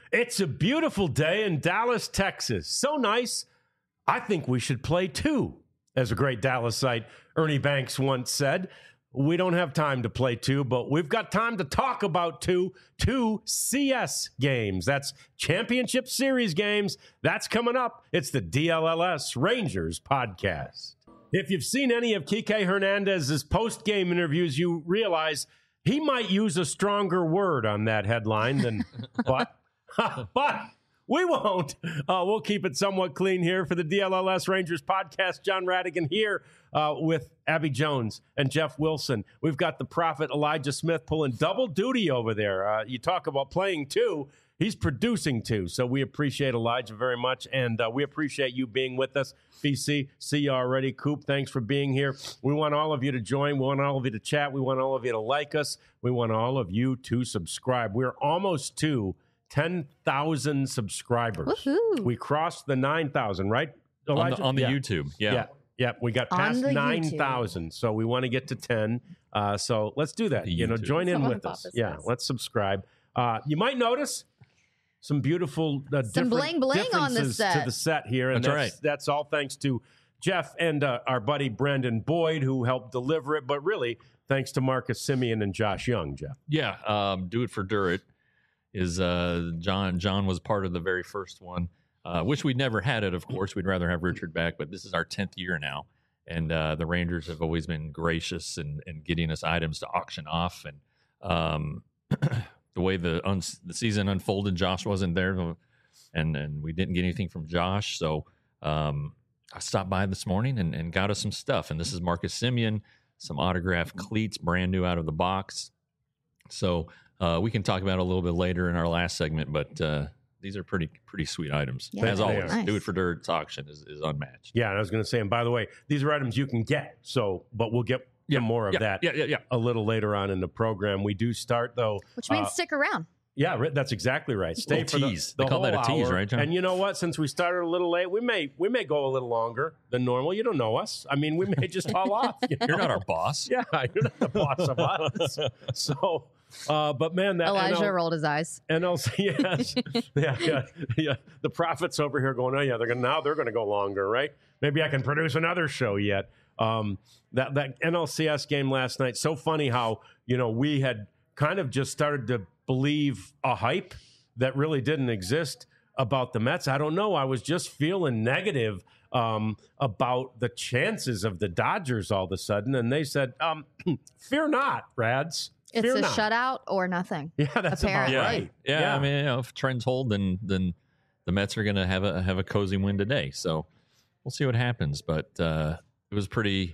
It's a beautiful day in Dallas, Texas. So nice, I think we should play two. As a great Dallasite, Ernie Banks once said, we don't have time to play two, but we've got time to talk about two CS games. That's Championship Series games. That's coming up. It's the DLLS Rangers podcast. If you've seen any of Kike Hernandez's post-game interviews, you realize he might use a stronger word on that headline than but. But we won't. We'll keep it somewhat clean here for the DLLS Rangers podcast. John Radigan here with Abby Jones and Jeff Wilson. We've got the prophet Elijah Smith pulling double duty over there. You talk about playing two. He's producing two. So we appreciate Elijah very much, and we appreciate you being with us. BC, see you already. Coop, thanks for being here. We want all of you to join. We want all of you to chat. We want all of you to like us. We want all of you to subscribe. We're almost to 10,000 subscribers. Woohoo. We crossed the 9,000, right, Elijah? On the YouTube, Yeah, we got past 9,000, so we want to get to 10. So let's do that. Join in with us. Yeah, let's subscribe. You might notice some beautiful some bling bling on the set. To the set here, and that's all thanks to Jeff and our buddy Brandon Boyd, who helped deliver it. But really, thanks to Marcus Simeon and Josh Young. Jeff, Do It for Durit is John was part of the very first one. Wish we'd never had it, of course. We'd rather have Richard back, but this is our 10th year now. And the Rangers have always been gracious in getting us items to auction off. And the way the season unfolded, Josh wasn't there, and we didn't get anything from Josh. So I stopped by this morning and got us some stuff. And this is Marcus Simeon, some autographed cleats, brand new out of the box. So we can talk about it a little bit later in our last segment, but these are pretty sweet items. Yeah, as always, nice. Do It for Dirt's auction is unmatched. Yeah, and I was going to say, and by the way, these are items you can get. But we'll get some more of that a little later on in the program. We do start, though. Which means stick around. Yeah, that's exactly right. Stay for tease. The they call whole that a tease, hour. right, John? And you know what? Since we started a little late, we may go a little longer than normal. You don't know us. I mean, we may just haul off. You're not our boss. Yeah, you're not the boss of us. So, but man, that Elijah rolled his eyes. NLC, yes, yeah. The prophets over here going, oh yeah, they're gonna go longer, right? Maybe I can produce another show yet. That NLCS game last night, so funny how we had kind of just started to believe a hype that really didn't exist about the Mets. I don't know. I was just feeling negative about the chances of the Dodgers all of a sudden, and they said, "Fear not, Rads." It's Fear a not. shutout or nothing. Yeah, that's apparently. about right. Yeah. I mean, if trends hold, then the Mets are going to have a cozy win today. So we'll see what happens. But it was pretty.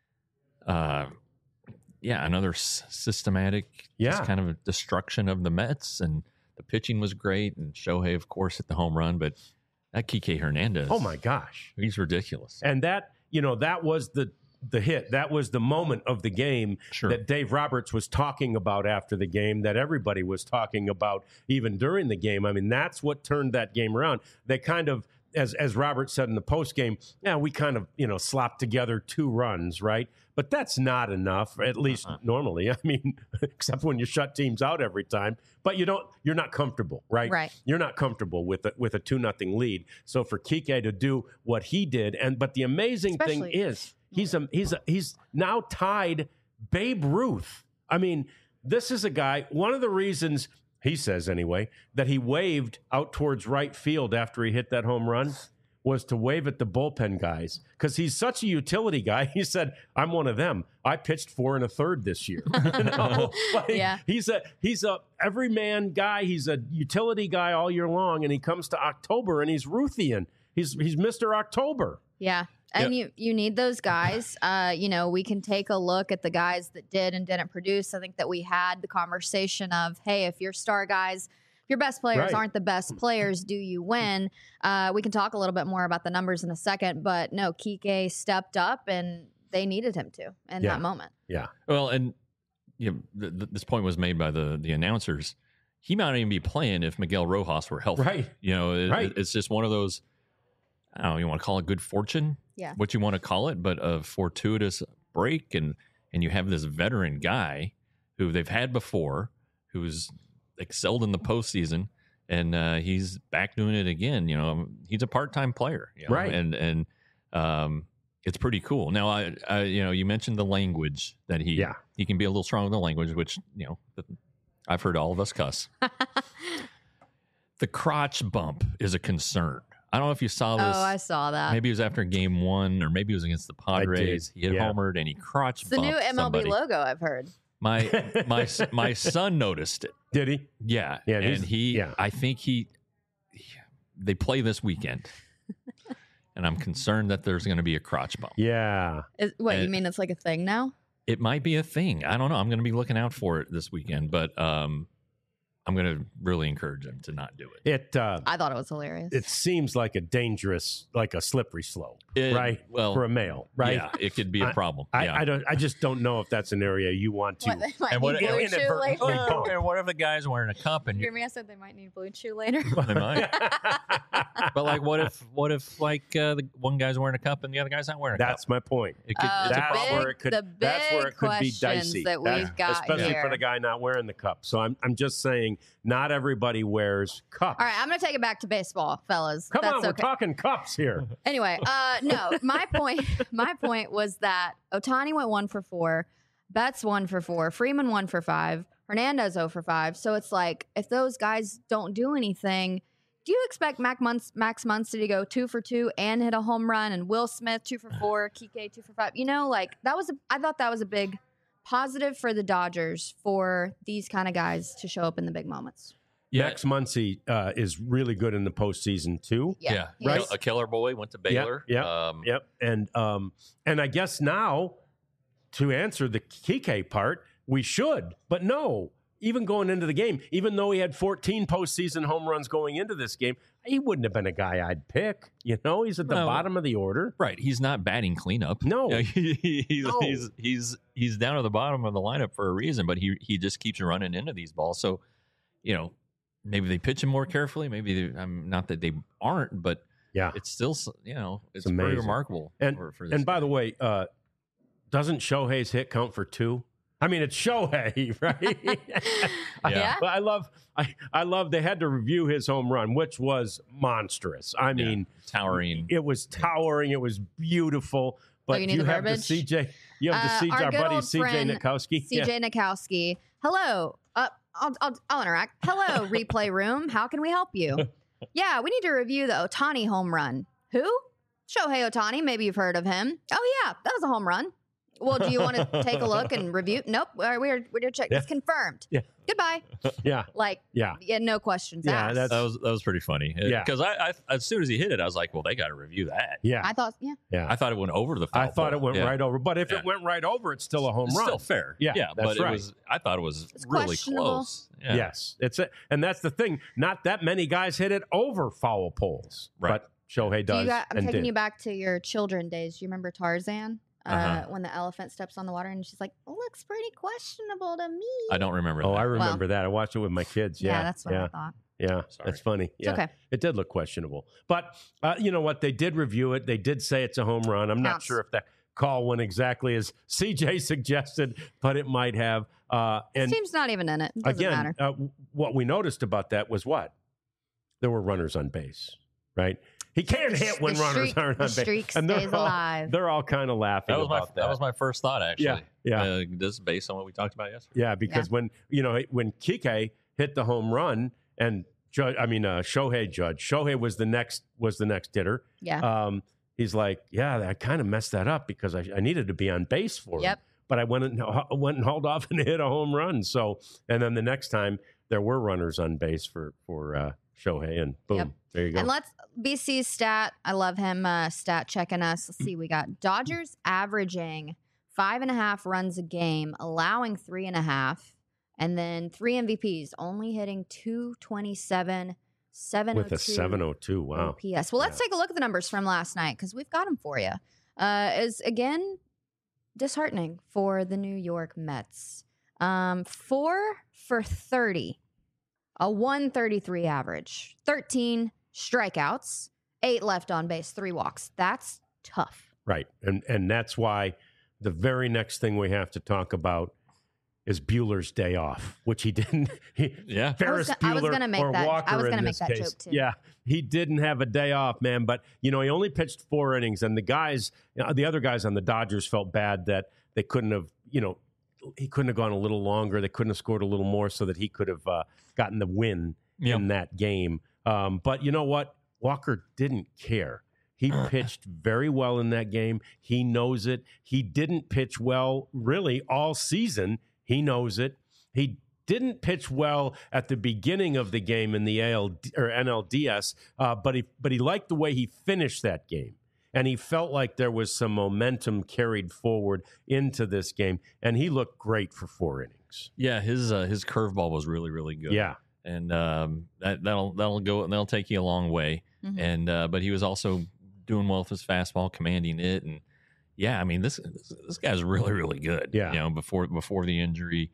Another systematic, just kind of a destruction of the Mets, and the pitching was great, and Shohei, of course, hit the home run, but that Kike Hernandez, oh my gosh, he's ridiculous. And that was the hit. That was the moment of the game that Dave Roberts was talking about after the game, that everybody was talking about even during the game. I mean, that's what turned that game around. They kind of, as Robert said in the post game, we kind of slopped together 2 runs, right? But that's not enough, at least normally. I mean, except when you shut teams out every time. But you're not comfortable, right? Right. You're not comfortable with a 2-0 lead. So for Kike to do what he did, but the amazing thing is he's now tied Babe Ruth. I mean, this is a guy. One of the reasons, he says anyway, that he waved out towards right field after he hit that home run was to wave at the bullpen guys, because he's such a utility guy. He said, "I'm one of them. I pitched 4 1/3 this year." He's a everyman guy. He's a utility guy all year long, and he comes to October and he's Ruthian. He's Mr. October. Yeah. And you need those guys. We can take a look at the guys that did and didn't produce. I think that we had the conversation of, hey, if your star guys, if your best players aren't the best players, do you win? We can talk a little bit more about the numbers in a second, but no, Kike stepped up and they needed him to in that moment. Yeah. Well, and this point was made by the announcers. He might not even be playing if Miguel Rojas were healthy. Right. It's just one of those, I don't know, you want to call it good fortune? Yeah. What you want to call it, but a fortuitous break. And you have this veteran guy who they've had before, who's excelled in the postseason, and he's back doing it again. You know, he's a part-time player, you know, Right. And it's pretty cool. Now, I you know, you mentioned the language that he can be a little strong with the language, which, you know, I've heard all of us cuss. The crotch bump is a concern. I don't know if you saw this. Oh, I saw that. Maybe it was after game 1, or maybe it was against the Padres. He had homered and he crotch It's the bumped new MLB somebody. logo, I've heard. My son noticed it. Did he? Yeah, Yeah, and I think they play this weekend, and I'm concerned that there's going to be a crotch bump. Yeah. You mean it's like a thing now? It might be a thing. I don't know. I'm going to be looking out for it this weekend, but I'm going to really encourage him to not do it. I thought it was hilarious. It seems like a dangerous, like a slippery slope, right? Well, for a male, right? Yeah, it could be a problem. I just don't know if that's an area you want to. They might need Blue Chew later. And what if the guy's wearing a cup and Hear me? I said they might need Blue Chew later. They might. But like, what if like the one guy's wearing a cup and the other guy's not wearing a cup? That's my point. It could, it's a That's problem. where it could. That's where it could be dicey. That we've got especially here. for the guy not wearing the cup. So I'm just saying, not everybody wears cups. All right, I'm going to take it back to baseball, fellas. Come That's on, we're okay. talking cups here. Anyway, no, my point was that Ohtani went 1 for 4, Betts 1 for 4, Freeman 1 for 5, Hernandez 0 for 5. So it's like, if those guys don't do anything, do you expect Max Muncy to go 2 for 2 and hit a home run, and Will Smith 2 for 4, Kike 2 for 5? You know, like I thought that was a big positive for the Dodgers for these kind of guys to show up in the big moments. Yeah. Max Muncy is really good in the postseason too. Yeah. Right. A killer boy, went to Baylor. Yep. And I guess now, to answer the Kike part, we should, but no. Even going into the game, even though he had 14 postseason home runs going into this game, he wouldn't have been a guy I'd pick. You know, he's at the bottom of the order. Right. He's not batting cleanup. No. He's down at the bottom of the lineup for a reason, but he just keeps running into these balls. So, you know, maybe they pitch him more carefully. Maybe not that they aren't, but yeah, it's still, you know, it's amazing. pretty remarkable. And for this and by guy. the way, doesn't Shohei's hit count for 2? I mean, it's Shohei, right? Yeah. But I love they had to review his home run, which was monstrous. I mean, towering. It was towering. It was beautiful. But you need the have the verbiage? CJ. You have the CJ, our good buddy old CJ friend, Nikowski. CJ Nikowski. Hello. I'll interact. Hello, replay room. How can we help you? Yeah, we need to review the Ohtani home run. Who? Shohei Ohtani. Maybe you've heard of him. Oh yeah, that was a home run. Well, do you want to take a look and review? Nope. We're gonna check. It's confirmed. Yeah. Goodbye. Yeah. Like. Yeah. No questions asked. that was pretty funny. Yeah. Because I as soon as he hit it, I was like, well, they got to review that. Yeah. I thought. Yeah. I thought it went over the foul I thought it pole. went right over. But if it went right over, it's still a home It's run. still fair. Yeah, but that's right. it was. I thought it was It's really questionable. close. Yeah. Yes. And that's the thing. Not that many guys hit it over foul poles. Right. But Shohei does. I'm taking you back to your children days. Do you remember Tarzan? When the elephant steps on the water and she's like, looks pretty questionable to me. I don't remember. Oh, that. I remember that. I watched it with my kids. Yeah. That's what I thought. Yeah, Sorry. that's funny. Yeah, okay. It did look questionable. But you know what? They did review it. They did say it's a home run. I'm not Counts. sure if that call went exactly as CJ suggested, but it might have. And This team's not even in it. It doesn't again, matter. what we noticed about that was what? There were runners on base, right? He can't hit when runners aren't on base. The streak And stays alive. They're all kind of laughing about that. That was my first thought, actually. Yeah. This is based on what we talked about yesterday. Yeah, because when Kike hit the home run and Shohei was the next hitter. Yeah. He's like, I kind of messed that up because I needed to be on base for him. But I went and hauled off and hit a home run. So, and then the next time there were runners on base for Shohei, and boom, there you go. And let's BC's stat. I love him stat checking us. Let's see. We got Dodgers averaging 5.5 runs a game, allowing 3.5, and then 3 MVPs, only hitting 227, 702. With a 702, wow. OPS. Well, let's take a look at the numbers from last night because we've got them for you. Is again disheartening for the New York Mets. 4 for 30. A 133 average, 13 strikeouts, 8 left on base, 3 walks. That's tough. Right. And that's why the very next thing we have to talk about is Bueller's day off, which he didn't. Yeah. Ferris I was Bueller gonna make or that. Walker I was in gonna make this that case. joke too. Yeah, he didn't have a day off, man. But he only pitched 4 innings, and the guys, the other guys on the Dodgers felt bad that they couldn't have, he couldn't have gone a little longer. They couldn't have scored a little more so that he could have gotten the win in that game. But you know what? Walker didn't care. He pitched very well in that game. He knows it. He didn't pitch well really all season. He knows it. He didn't pitch well at the beginning of the game in the NLDS, but he liked the way he finished that game. And he felt like there was some momentum carried forward into this game, and he looked great for 4 innings. Yeah, his curveball was really, really good. Yeah, and that'll take you a long way. Mm-hmm. And but he was also doing well with his fastball, commanding it, and yeah, I mean this guy's really, really good. Yeah, before the injury.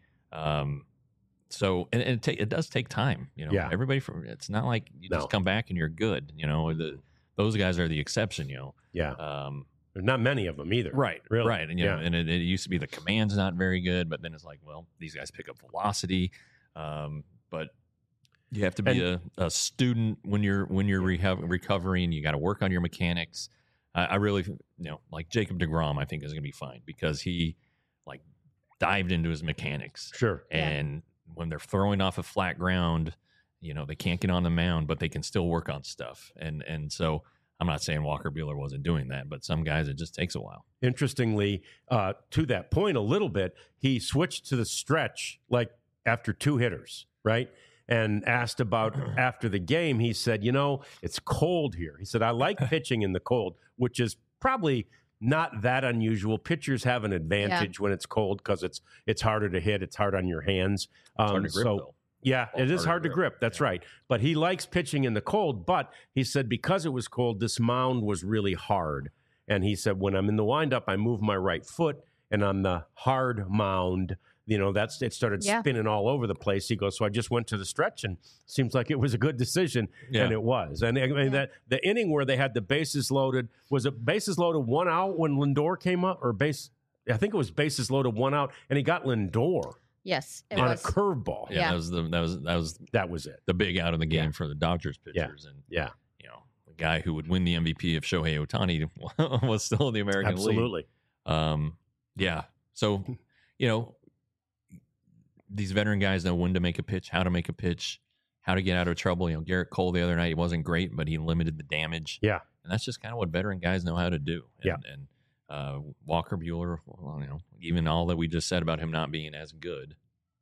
So it does take time. Yeah. Everybody it's not like you just come back and you're good. Those guys are the exception. Yeah. There's not many of them either. Right. Really. Right. And and it used to be the command's not very good, but then it's like, well, these guys pick up velocity. But you have to be a student when you're recovering. You got to work on your mechanics. I really, like Jacob deGrom, I think is going to be fine because he like dived into his mechanics. Sure. And when they're throwing off a flat ground, they can't get on the mound, but they can still work on stuff. And so I'm not saying Walker Buehler wasn't doing that, but some guys, it just takes a while. Interestingly, to that point a little bit, he switched to the stretch like after 2 hitters, right? And asked about after the game, he said, it's cold here. He said, I like pitching in the cold, which is probably not that unusual. Pitchers have an advantage when it's cold because it's harder to hit. It's hard on your hands. It's hard to grip, though. Yeah, it is hard to grip. That's right. But he likes pitching in the cold. But he said because it was cold, this mound was really hard. And he said, when I'm in the windup, I move my right foot. And on the hard mound, it started spinning all over the place. He goes, so I just went to the stretch and seems like it was a good decision. Yeah. And it was. And I mean, that the inning where they had the bases loaded, was it bases loaded 1 out when Lindor came up I think it was bases loaded 1 out and he got Lindor. Yes, it on was a curveball. Yeah, that was it. The big out of the game for the Dodgers pitchers, and the guy who would win the MVP if Shohei Ohtani was still in the American League. Absolutely. Yeah. So, these veteran guys know when to make a pitch, how to make a pitch, how to get out of trouble. Garrett Cole the other night, he wasn't great, but he limited the damage. Yeah, and that's just kind of what veteran guys know how to do. And Walker Buehler, even all that we just said about him not being as good,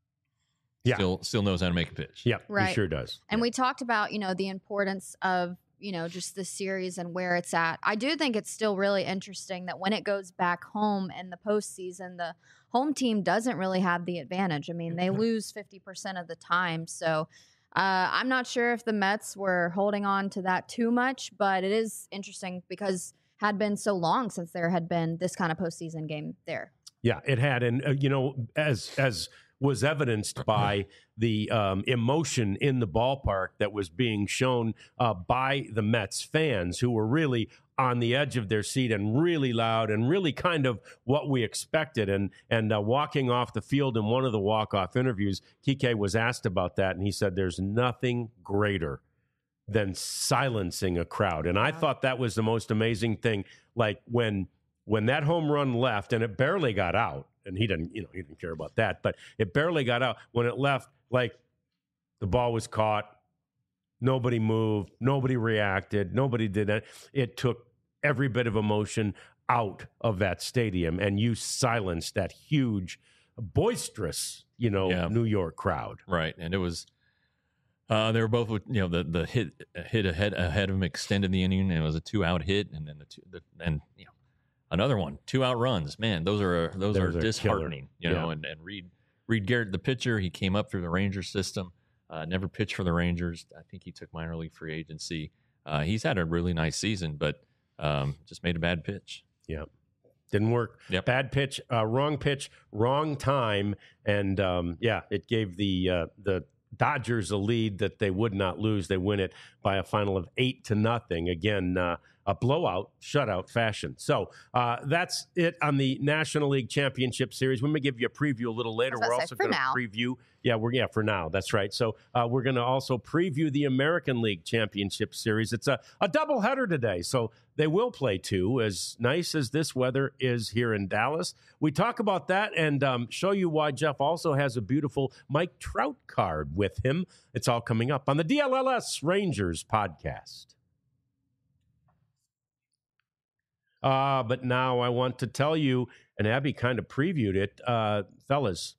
still knows how to make a pitch. Yeah, right. He sure does. And we talked about, the importance of, just the series and where it's at. I do think it's still really interesting that when it goes back home in the postseason, the home team doesn't really have the advantage. I mean, they lose 50% of the time. So I'm not sure if the Mets were holding on to that too much, but it is interesting because had been so long since there had been this kind of postseason game there. Yeah, it had. And, as was evidenced by the emotion in the ballpark that was being shown by the Mets fans who were really on the edge of their seat and really loud and really kind of what we expected. And walking off the field in one of the walk-off interviews, Kike was asked about that, and he said there's nothing greater than silencing a crowd. And I thought that was the most amazing thing. Like when that home run left and it barely got out, and he didn't care about that, but it barely got out. When it left, like the ball was caught, nobody moved, nobody reacted, nobody did that. It took every bit of emotion out of that stadium, and you silenced that huge, boisterous, New York crowd. Right, and it was. They were both, the hit ahead of him extended the inning, and it was a 2-out hit, and then another one, 2-out runs. Man, those are disheartening. And Reed Garrett, the pitcher, he came up through the Rangers system, never pitched for the Rangers. I think he took minor league free agency. He's had a really nice season, but just made a bad pitch. Yeah. Didn't work. Yep. Bad pitch, wrong time, and it gave the Dodgers a lead that they would not lose. They win it by a final of 8-0. Again, a blowout, shutout fashion. So that's it on the National League Championship Series. We may give you a preview a little later. We're also going to preview. Yeah, for now. That's right. So we're going to also preview the American League Championship Series. It's a doubleheader today, so they will play two, as nice as this weather is here in Dallas. We talk about that and show you why Jeff also has a beautiful Mike Trout card with him. It's all coming up on the DLLS Rangers podcast. But now I want to tell you, and Abby kind of previewed it, fellas,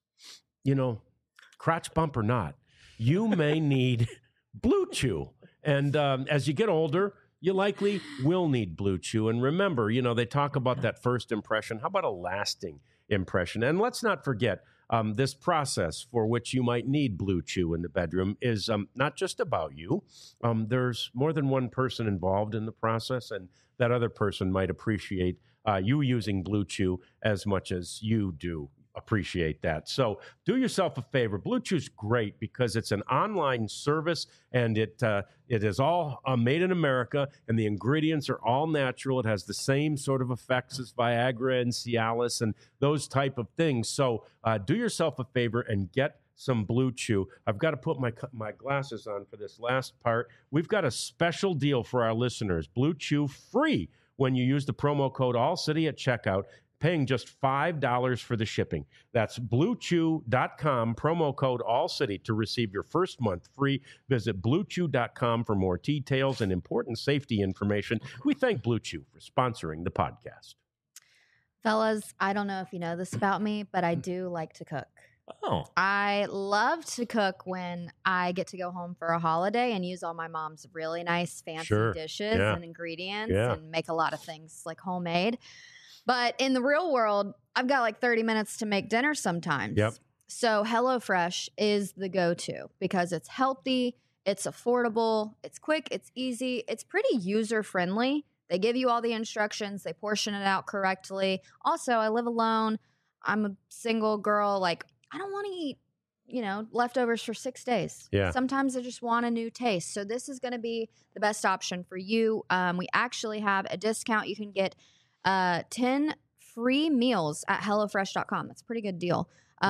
crotch bump or not, you may need Blue Chew. And as you get older, you likely will need Blue Chew. And remember, they talk about that first impression. How about a lasting impression? And let's not forget, this process for which you might need Blue Chew in the bedroom is not just about you. There's more than one person involved in the process, and that other person might appreciate you using Blue Chew as much as you do appreciate that. So do yourself a favor. Blue Chew's great because it's an online service, and it is all made in America, and the ingredients are all natural. It has the same sort of effects as Viagra and Cialis and those type of things. So do yourself a favor and get some Blue Chew. I've got to put my glasses on for this last part. We've got a special deal for our listeners. Blue Chew free when you use the promo code AllCity at checkout, paying just $5 for the shipping. That's BlueChew.com, promo code AllCity to receive your first month free. Visit BlueChew.com for more details and important safety information. We thank Blue Chew for sponsoring the podcast. Fellas, I don't know if you know this about me, but I do like to cook. Oh. I love to cook when I get to go home for a holiday and use all my mom's really nice, fancy dishes and ingredients and make a lot of things like homemade. But in the real world, I've got like 30 minutes to make dinner sometimes. Yep. So HelloFresh is the go-to because it's healthy, it's affordable, it's quick, it's easy, it's pretty user-friendly. They give you all the instructions, they portion it out correctly. Also, I live alone. I'm a single girl. Like, I don't want to eat, leftovers for 6 days. Yeah. Sometimes I just want a new taste. So this is going to be the best option for you. We actually have a discount. You can get 10 free meals at HelloFresh.com. That's a pretty good deal.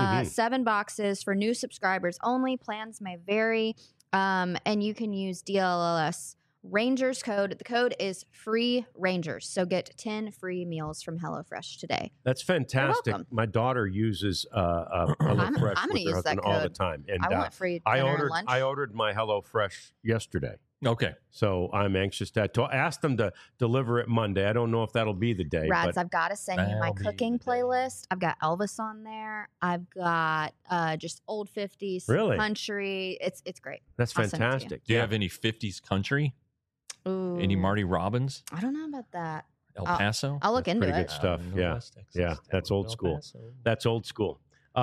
7 boxes for new subscribers only. Plans may vary. And you can use DLLS Rangers code. The code is free Rangers. So get 10 free meals from HelloFresh today. That's fantastic. My daughter uses HelloFresh I'm with her husband all the time. And I want free dinner and lunch. I ordered my HelloFresh yesterday. Okay. So I'm anxious to ask them to deliver it Monday. I don't know if that'll be the day. Rads, I've got to send you my cooking playlist. I've got Elvis on there. I've got just old 50s country. It's great. That's fantastic. Do you have any 50s country? Ooh. Any Marty Robbins? I don't know about that. El Paso? I'll look into it. Pretty good stuff. Yeah. That's old school. That's old school.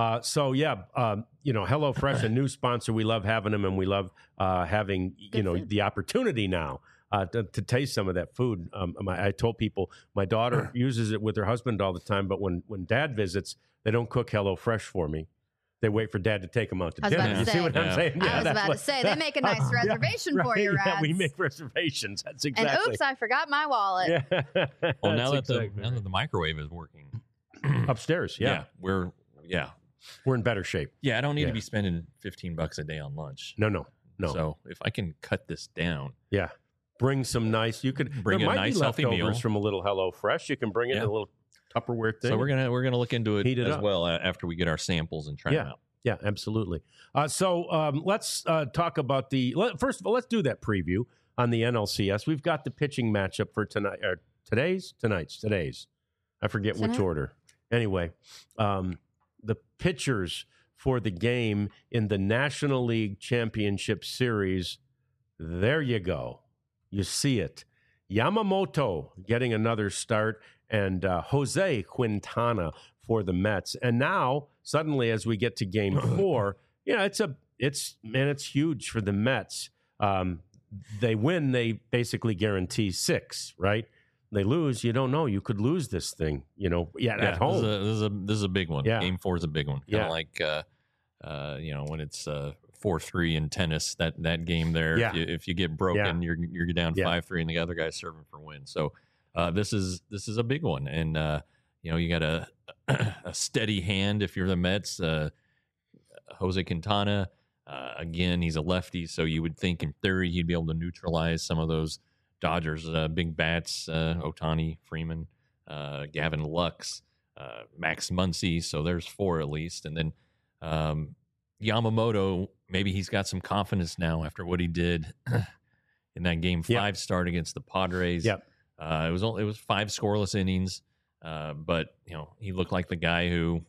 HelloFresh, a new sponsor. We love having them, and we love having the opportunity now to taste some of that food. I told people my daughter uses it with her husband all the time, but when Dad visits, they don't cook HelloFresh for me. They wait for Dad to take them out to dinner. You see what I'm saying? I was about to say, they make a nice reservation for you, Rads. Yeah, we make reservations. That's exactly. And oops, I forgot my wallet. Yeah. Well, now that the microwave is working upstairs, we're in better shape. Yeah, I don't need to be spending $15 a day on lunch. No. So if I can cut this down, bring some nice. You could bring a nice healthy meal from a little HelloFresh. You can bring it in a little Tupperware thing. So we're gonna look into it as well after we get our samples and try them out. Yeah, absolutely. So let's talk about first of all, let's do that preview on the NLCS. We've got the pitching matchup for tonight. Today's. I forget which order. Anyway, the pitchers for the game in the National League Championship Series. There you go. You see it. Yamamoto getting another start, and Jose Quintana for the Mets. And now, suddenly, as we get to Game 4, it's huge for the Mets. They win, they basically guarantee 6, right? They lose, you don't know. You could lose this thing, at home. This is a big one. Yeah. Game 4 is a big one. Kind of like, when it's 4-3 in tennis, that game there. Yeah. If you get broken, Yeah. you're down Yeah. 5-3, and the other guy's serving for win. So this is a big one, and you got a a steady hand if you're the Mets. Jose Quintana, again, he's a lefty, so you would think in theory he'd be able to neutralize some of those Dodgers big bats, Ohtani, Freeman, Gavin Lux, Max Muncy. So there's 4 at least. And then Yamamoto, maybe he's got some confidence now after what he did in that Game 5 start against the Padres. Yep. It was 5 scoreless innings, but he looked like the guy who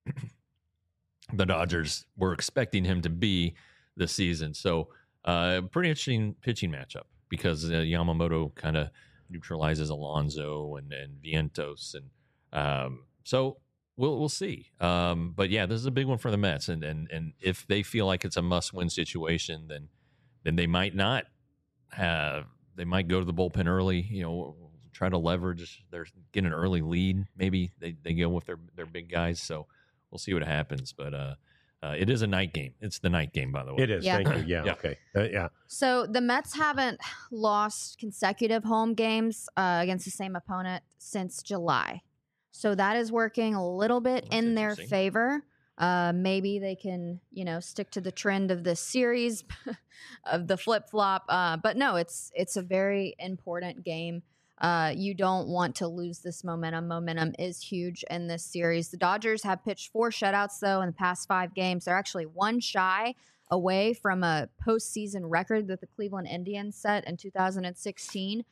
the Dodgers were expecting him to be this season. So pretty interesting pitching matchup because Yamamoto kind of neutralizes Alonso and Vientos, and so we'll see. But yeah, this is a big one for the Mets, and if they feel like it's a must-win situation, then they might not have. They might go to the bullpen early. Try to leverage get an early lead. Maybe they go with their big guys. So we'll see what happens. But it is a night game. It's the night game, by the way. It is. Yeah. Thank you. Yeah. Yeah. Okay. Yeah. So the Mets haven't lost consecutive home games against the same opponent since July. So that is working a little bit That's in their interesting. favor. Maybe they can, stick to the trend of this series of the flip-flop. But no, it's a very important game. You don't want to lose this momentum. Momentum is huge in this series. The Dodgers have pitched 4 shutouts, though, in the past 5 games. They're actually 1 shy away from a postseason record that the Cleveland Indians set in 2016.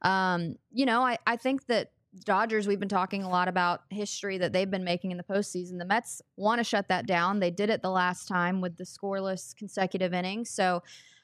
I think that Dodgers, we've been talking a lot about history that they've been making in the postseason. The Mets want to shut that down. They did it the last time with the scoreless consecutive innings. So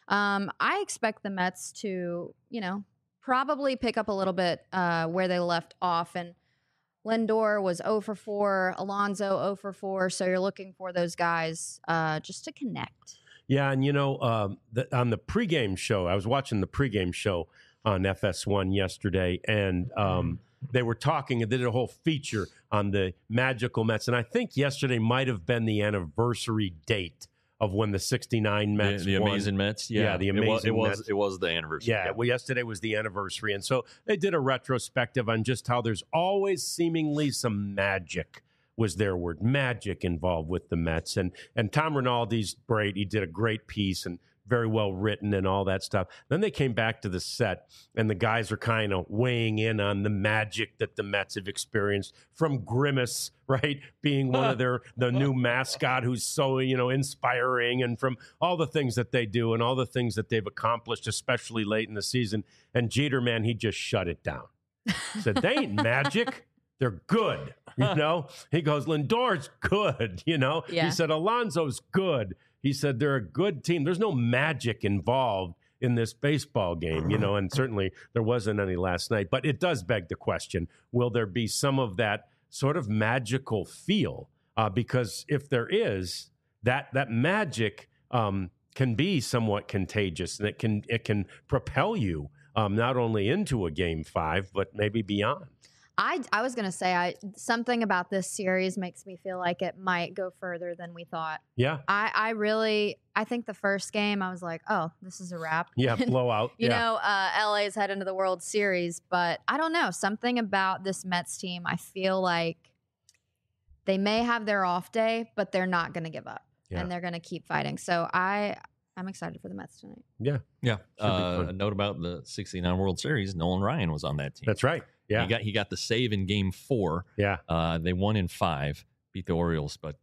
I expect the Mets to, probably pick up a little bit where they left off. And Lindor was 0 for 4, Alonso 0 for 4. So you're looking for those guys just to connect. Yeah, and on the pregame show, I was watching the pregame show on FS1 yesterday, and they were talking, and they did a whole feature on the magical Mets, and I think yesterday might have been the anniversary date of when the '69 Mets the won. amazing Mets. Yeah, the amazing Mets. It was the anniversary. Yeah, well, yesterday was the anniversary, and so they did a retrospective on just how there's always seemingly some magic, was their word, magic involved with the Mets. And Tom Rinaldi's great. He did a great piece and very well written and all that stuff. Then they came back to the set, and the guys are kind of weighing in on the magic that the Mets have experienced from Grimace, right, being one of the new mascot who's so, inspiring, and from all the things that they do and all the things that they've accomplished, especially late in the season. And Jeter, man, he just shut it down. Said, they ain't magic. They're good, He goes, Lindor's good, Yeah. He said, Alonso's good. He said, they're a good team. There's no magic involved in this baseball game, and certainly there wasn't any last night. But it does beg the question, will there be some of that sort of magical feel? Because if there is, that magic can be somewhat contagious, and it can propel you not only into a Game 5, but maybe beyond. I was going to say something about this series makes me feel like it might go further than we thought. Yeah. I think the first game I was like, oh, this is a wrap. Yeah, blowout. LA is heading to the World Series, but I don't know. Something about this Mets team, I feel like they may have their off day, but they're not going to give up, and they're going to keep fighting. So I'm excited for the Mets tonight. Yeah. Yeah. A note about the '69 World Series: Nolan Ryan was on that team. That's right. Yeah. He got the save in Game 4. Yeah. They won in 5, beat the Orioles, but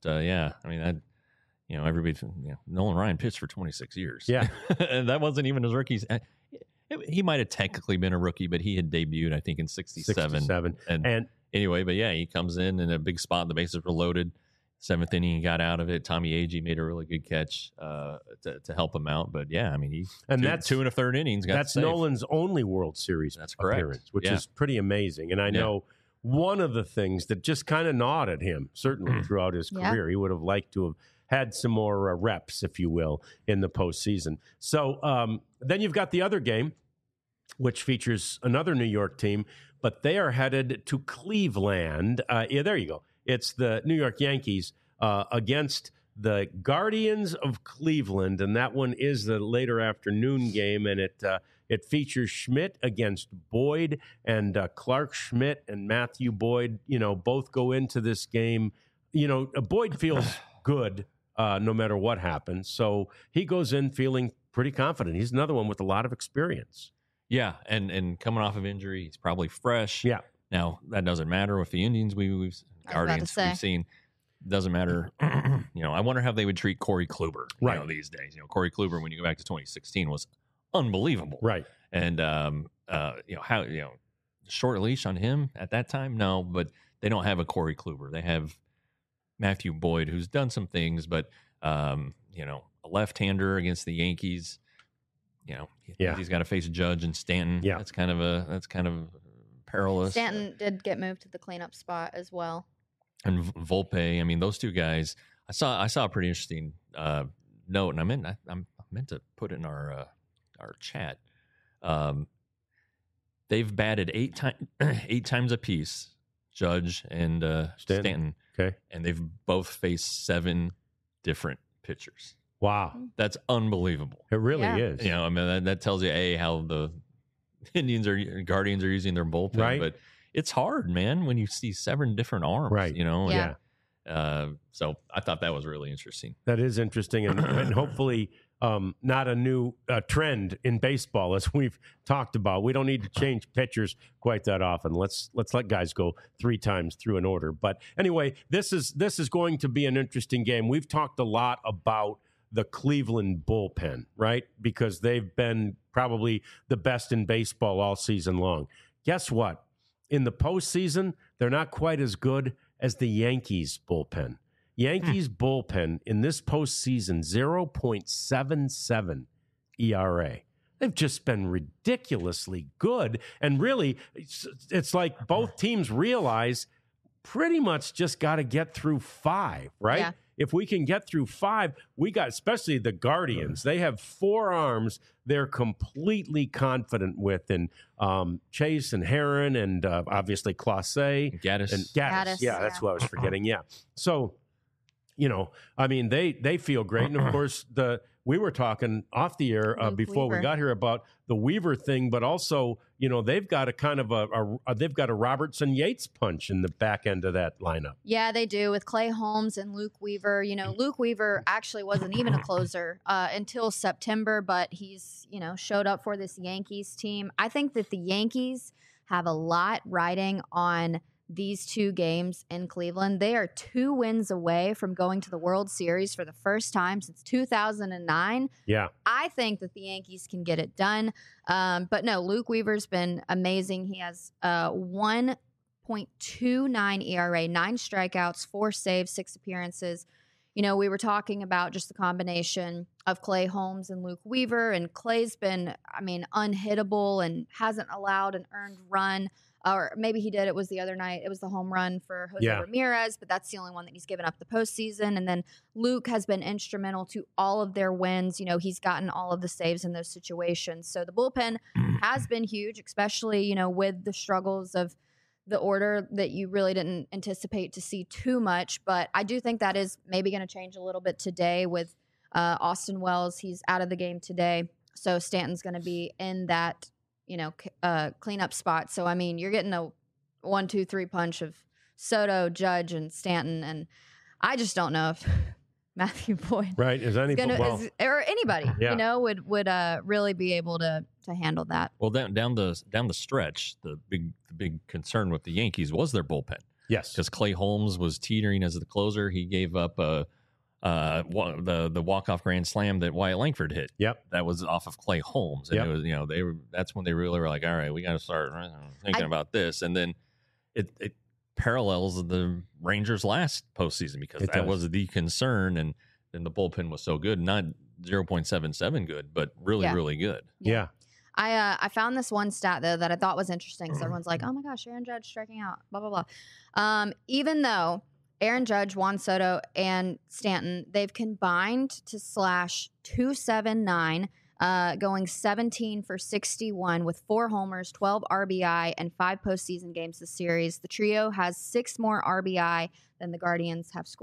everybody, Nolan Ryan pitched for 26 years. Yeah. And that wasn't even his rookies. He might have technically been a rookie, but he had debuted, I think, in 67. And anyway, but yeah, he comes in a big spot. The bases were loaded. 7th inning, he got out of it. Tommy Agee made a really good catch to help him out. But yeah, I mean, that's 2 1/3 innings. That's Nolan's only World Series appearance, which is pretty amazing. And I know one of the things that just kind of gnawed at him, certainly throughout his career, he would have liked to have had some more reps, if you will, in the postseason. So then you've got the other game, which features another New York team, but they are headed to Cleveland. There you go. It's the New York Yankees against the Guardians of Cleveland, and that one is the later afternoon game, and it features Schmidt against Boyd, and Clark Schmidt and Matthew Boyd, both go into this game. Boyd feels good no matter what happens, so he goes in feeling pretty confident. He's another one with a lot of experience. Yeah, and coming off of injury, he's probably fresh. Yeah. Now that doesn't matter with the Indians. We've Guardians we've seen. Doesn't matter. I wonder how they would treat Corey Kluber these days. Corey Kluber, when you go back to 2016, was unbelievable. Right. And how short leash on him at that time? No, but they don't have a Corey Kluber. They have Matthew Boyd, who's done some things, but a left-hander against the Yankees. He's got to face Judge and Stanton. Yeah, that's kind of perilous. Stanton did get moved to the cleanup spot as well. And Volpe, I mean, those two guys. I saw a pretty interesting note, and I meant to put it in our chat. They've batted eight times apiece, Judge and Stanton. Okay, and they've both faced 7 different pitchers. Wow, that's unbelievable. It really is. That tells you how the Guardians are using their bullpen, right? But it's hard, man, when you see 7 different arms, right? Yeah. So I thought that was really interesting. That is interesting, and hopefully not a new trend in baseball, as we've talked about. We don't need to change pitchers quite that often. Let's let guys go 3 times through an order. But anyway, this is going to be an interesting game. We've talked a lot about the Cleveland bullpen, right? Because they've been probably the best in baseball all season long. Guess what? In the postseason, they're not quite as good as the Yankees bullpen. Yankees bullpen in this postseason, 0.77 ERA. They've just been ridiculously good. And really, it's like both teams realize pretty much just got to get through 5, right? Yeah. If we can get through 5, we got, especially the Guardians, they have 4 arms they're completely confident with, and Chase and Heron and obviously Clase. Gaddis. And Gaddis. Yeah, that's what I was forgetting. Yeah. So, they feel great. And of course, we were talking off the air before we got here about the Weaver thing, but also, they've got a kind of they've got a Robertson Yates punch in the back end of that lineup. Yeah, they do, with Clay Holmes and Luke Weaver. Luke Weaver actually wasn't even a closer until September, but he's, showed up for this Yankees team. I think that the Yankees have a lot riding on these 2 games in Cleveland. They are 2 wins away from going to the World Series for the first time since 2009. Yeah. I think that the Yankees can get it done. But no, Luke Weaver's been amazing. He has 1.29 ERA, 9 strikeouts, 4 saves, 6 appearances. We were talking about just the combination of Clay Holmes and Luke Weaver, and Clay's been, unhittable and hasn't allowed an earned run. Or maybe he did. It was the other night. It was the home run for Jose Ramirez, but that's the only one that he's given up the postseason. And then Luke has been instrumental to all of their wins. He's gotten all of the saves in those situations. So the bullpen has been huge, especially, with the struggles of the order that you really didn't anticipate to see too much. But I do think that is maybe going to change a little bit today with Austin Wells. He's out of the game today. So Stanton's going to be in that cleanup spot. So, you're getting a 1, 2, 3 punch of Soto, Judge, and Stanton. And I just don't know if Matthew Boyd, right, is anybody, or anybody, would really be able to handle that. Well, down the stretch, the big concern with the Yankees was their bullpen. Yes, because Clay Holmes was teetering as the closer. He gave up the walk-off grand slam that Wyatt Langford hit. Yep. That was off of Clay Holmes. And it was, that's when they really were like, all right, we got to start thinking about this. And then it parallels the Rangers' last postseason, because that was the concern. And then the bullpen was so good, not 0.77 good, but really, really good. Yeah. I found this one stat, though, that I thought was interesting. So everyone's like, oh my gosh, Aaron Judge striking out, blah, blah, blah. Even though Aaron Judge, Juan Soto, and Stanton, they've combined to slash .279, going 17 for 61 with 4 homers, 12 RBI, and 5 postseason games this series. The trio has 6 more RBI than the Guardians have scored.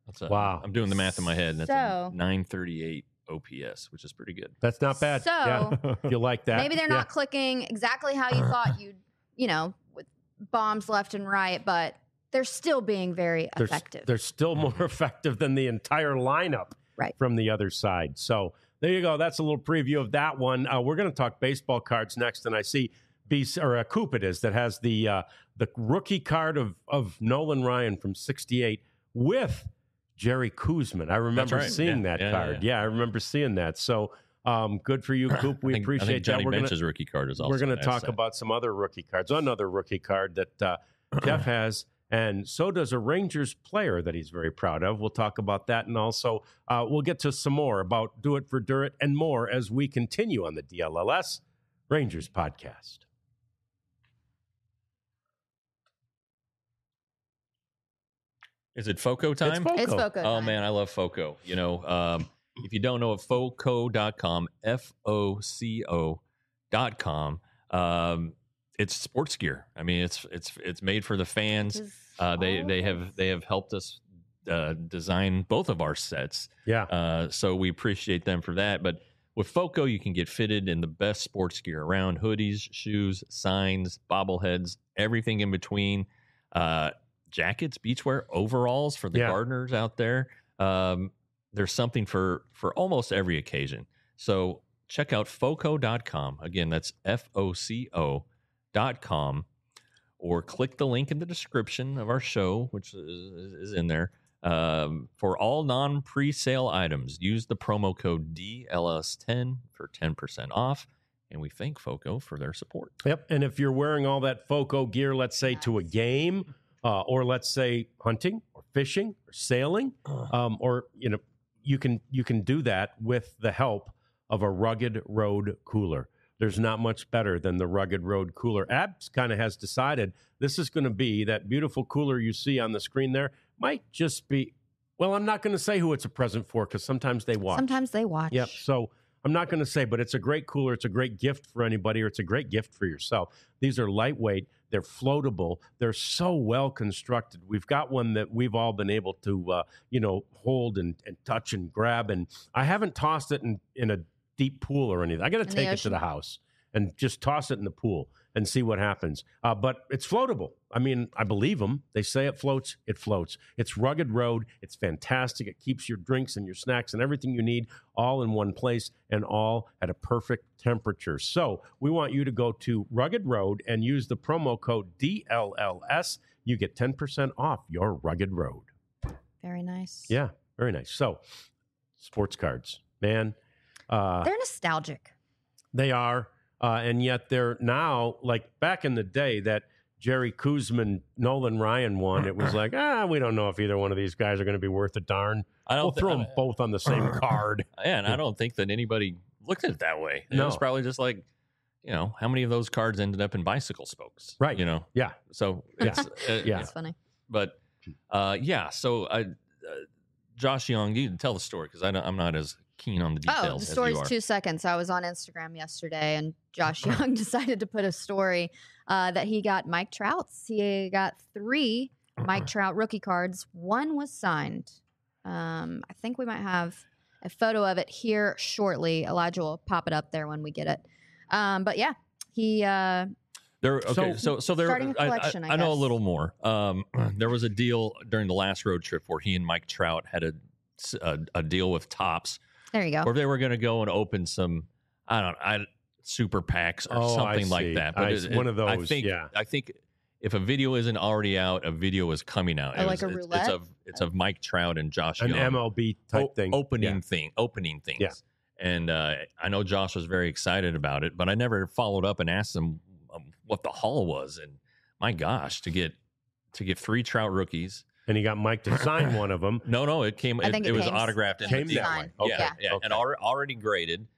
Wow. I'm doing the math in my head. And that's So- a 938 OPS, which is pretty good. That's not bad. So, yeah. You like that? maybe they're Yeah. not clicking exactly how you thought you'd, with bombs left and right, but they're still being very effective. They're still more effective than the entire lineup from the other side. So there you go. That's a little preview of that one. We're going to talk baseball cards next, and I see Coop it is that has the rookie card of Nolan Ryan from '68 with Jerry Koosman. I remember seeing that card. Yeah, I remember seeing that. So good for you, Coop. We appreciate I think Johnny that. Bench's rookie card is also. We're going to talk about some other rookie cards. Another rookie card that Jeff has, and so does a Rangers player that he's very proud of. We'll talk about that, and also we'll get to some more about Do It for Durrett and more as we continue on the DLLS Rangers podcast. Is it FOCO time? It's FOCO time. Oh, man, I love FOCO. If you don't know what FOCO.com, FOCO.com, it's sports gear. I mean, it's made for the fans. They have helped us design both of our sets. Yeah. So we appreciate them for that. But with FOCO, you can get fitted in the best sports gear around: hoodies, shoes, signs, bobbleheads, everything in between. Jackets, beachwear, overalls for the gardeners out there. There's something for almost every occasion. So check out FOCO.com. Again, that's FOCO.com, or click the link in the description of our show, which is in there. For all non-pre-sale items, use the promo code DLS10 for 10% off. And we thank FOCO for their support. Yep. And if you're wearing all that FOCO gear, let's say to a game, or let's say hunting or fishing or sailing, or you can do that with the help of a Rugged Road cooler. There's not much better than the Rugged Road cooler. Abs kind of has decided this is going to be that beautiful cooler you see on the screen there. Might just be, well, I'm not going to say who it's a present for because sometimes they watch. Yep. So I'm not going to say, but it's a great cooler. It's a great gift for anybody, or it's a great gift for yourself. These are lightweight. They're floatable. They're so well constructed. We've got one that we've all been able to, hold and touch and grab. And I haven't tossed it in a deep pool or anything. I got to take it to the house and just toss it in the pool and see what happens. But it's floatable. I mean, I believe them. They say it floats. It floats. It's Rugged Road. It's fantastic. It keeps your drinks and your snacks and everything you need all in one place and all at a perfect temperature. So we want you to go to Rugged Road and use the promo code DLLS. You get 10% off your Rugged Road. Very nice. Yeah, very nice. So sports cards, man. They're nostalgic. They are. And yet they're now, like back in the day, that Jerry Koosman, Nolan Ryan one, it was like, we don't know if either one of these guys are going to be worth a darn. We'll throw them both on the same card. Yeah, and I don't think that anybody looked at it that way. It was probably just like, how many of those cards ended up in bicycle spokes? Right. Yeah. So it's, That's funny. But, so Josh Young, you can tell the story because I'm not as keen on the details. The story's 2 seconds. I was on Instagram yesterday, and Josh Young decided to put a story that he got Mike Trout's. He got 3 Mike Trout rookie cards. One was signed. I think we might have a photo of it here shortly. Elijah will pop it up there when we get it. But yeah, he. So there. Starting a collection, I know a little more. There was a deal during the last road trip where he and Mike Trout had a deal with Topps. There you go. Or they were going to go and open some, super packs or something like that. But one of those. I think if a video isn't already out, a video is coming out. Like a roulette. It's of Mike Trout and Josh Young. An MLB type thing. Opening things. Yeah. And I know Josh was very excited about it, but I never followed up and asked him what the haul was. And my gosh, to get 3 Trout rookies. And he got Mike to sign one of them. No, it came. It was autographed. Came that way. Okay. Yeah. And already graded.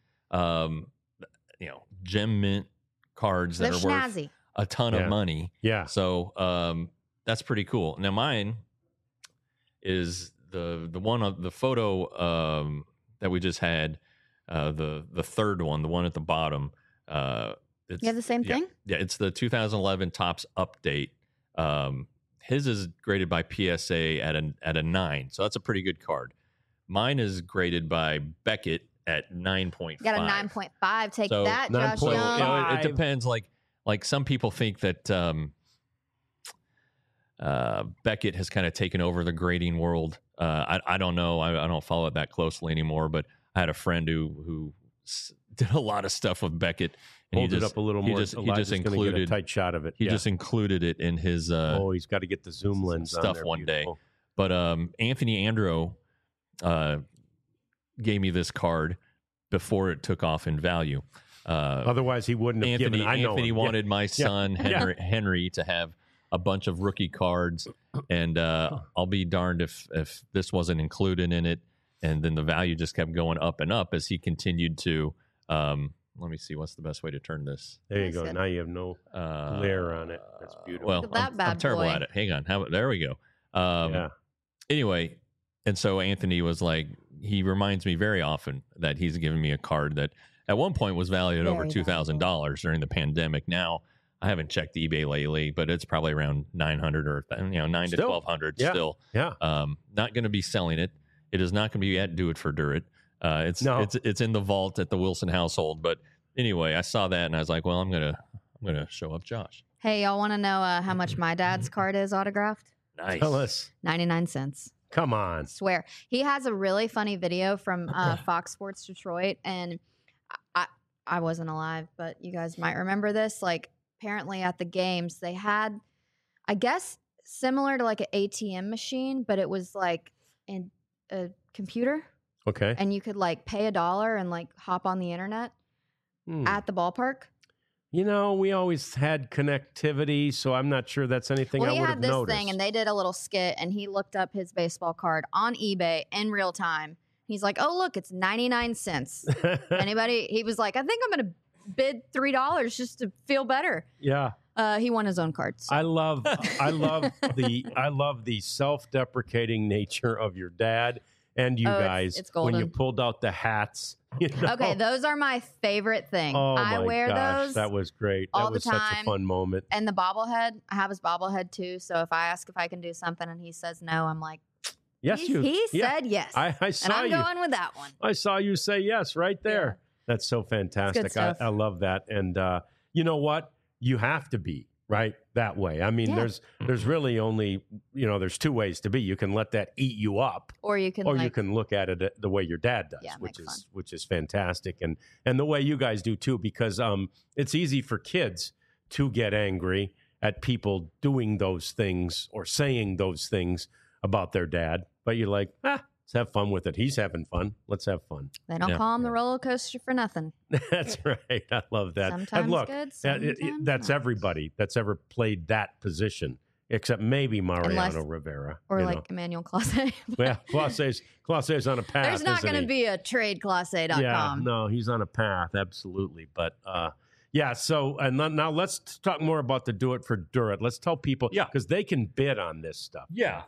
Gem mint cards that are worth a ton of money. Yeah. So that's pretty cool. Now mine is the one of the photo that we just had. The third one, the one at the bottom. You have the same thing? Yeah, it's the 2011 Topps update. his is graded by PSA at a 9, so that's a pretty good card. Mine is graded by Beckett at 9.5. Got a 9.5. Take So, that, Josh 9.5. Young. It depends. Like some people think that Beckett has kind of taken over the grading world. I don't know. I don't follow it that closely anymore. But I had a friend who did a lot of stuff with Beckett. And Hold it up a little more. He just Elijah's gonna included get a tight shot of it. He just included it in his he's got to get the zoom lens on stuff there. one Beautiful. day. But Anthony Andro gave me this card before it took off in value. Otherwise, he wouldn't have given. I know Anthony him. wanted my son Henry to have a bunch of rookie cards, and I'll be darned if this wasn't included in it. And then the value just kept going up and up as he continued to. Let me see, what's the best way to turn this? There you go. Now you have no glare on it. That's beautiful. Well, Look at that I'm bad terrible boy. at it. Hang on. There we go. Yeah. Anyway, and so Anthony was like, he reminds me very often that he's given me a card that at one point was valued at over Very $2,000 during the pandemic. Now, I haven't checked eBay lately, but it's probably around 900 or 9 to Still. 1,200 Yeah. still. Yeah. Not going to be selling it. It is not going to be at Do It for Durit. It's in the vault at the Wilson household. But anyway, I saw that and I was like, well, I'm gonna show up Josh. Hey, y'all want to know how much my dad's card is autographed? Nice. Tell us. 99 cents. Come on. Swear. He has a really funny video from Fox Sports Detroit, and I wasn't alive, but you guys might remember this. Like, apparently at the games, they had, I guess, similar to like an ATM machine, but it was like in a computer, Okay. and you could like pay $1 and like hop on the internet at the ballpark. You know, we always had connectivity, so I'm not sure that's anything Well, I he would had have this noticed. thing, and they did a little skit, and he looked up his baseball card on eBay in real time. He's like, "Oh, look, it's 99 cents." Anybody? He was like, "I think I'm going to bid $3 just to feel better." Yeah. He won his own cards. I love the self-deprecating nature of your dad and you guys it's when you golden. pulled out the hats. You know? Okay, those are my favorite thing. Oh I my wear gosh, those. that was great. all That the was such a time. fun moment. And the bobblehead, I have his bobblehead too. So if I ask if I can do something and he says no, I'm like, Yes, he said yes. I and saw I'm you. going with that one. I saw you say yes right there. That's so fantastic. stuff. I love that. And you know what? You have to be right that way. I mean, Yeah. there's really only, there's two ways to be. You can let that eat you up, Or you can or like, you can look at it the way your dad does, Yeah, which make is fantastic, and the way you guys do too, because it's easy for kids to get angry at people doing those things or saying those things about their dad, but you're like, let's have fun with it. He's having fun. Let's have fun. they don't Yeah. call him the roller coaster for nothing. That's right. I love that. Sometimes and look, good, that- sometimes that's not. everybody that's ever played that position, except maybe Mariano Unless- Rivera. Or you like know. Emmanuel Clase. Well, Clase's on a path. There's not isn't going to he? be a trade classe.com. Yeah, no, he's on a path, absolutely. But yeah, so and now let's talk more about the Do It for Durit. Let's tell people, Yeah. because they can bid on this stuff. Yeah.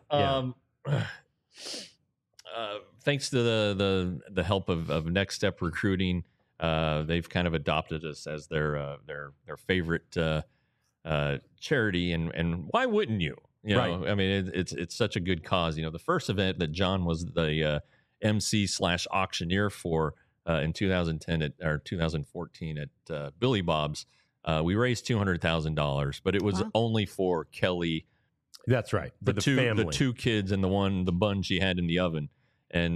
Thanks to the help of Next Step Recruiting, they've kind of adopted us as their favorite charity, and why wouldn't you? You know, Right. I mean, it's such a good cause. You know, the first event that John was the MC/auctioneer for in 2010 or 2014 at Billy Bob's, we raised $200,000, but it was Wow. only for Kelly. That's right. For the family. The two kids and the bun she had in the oven. And,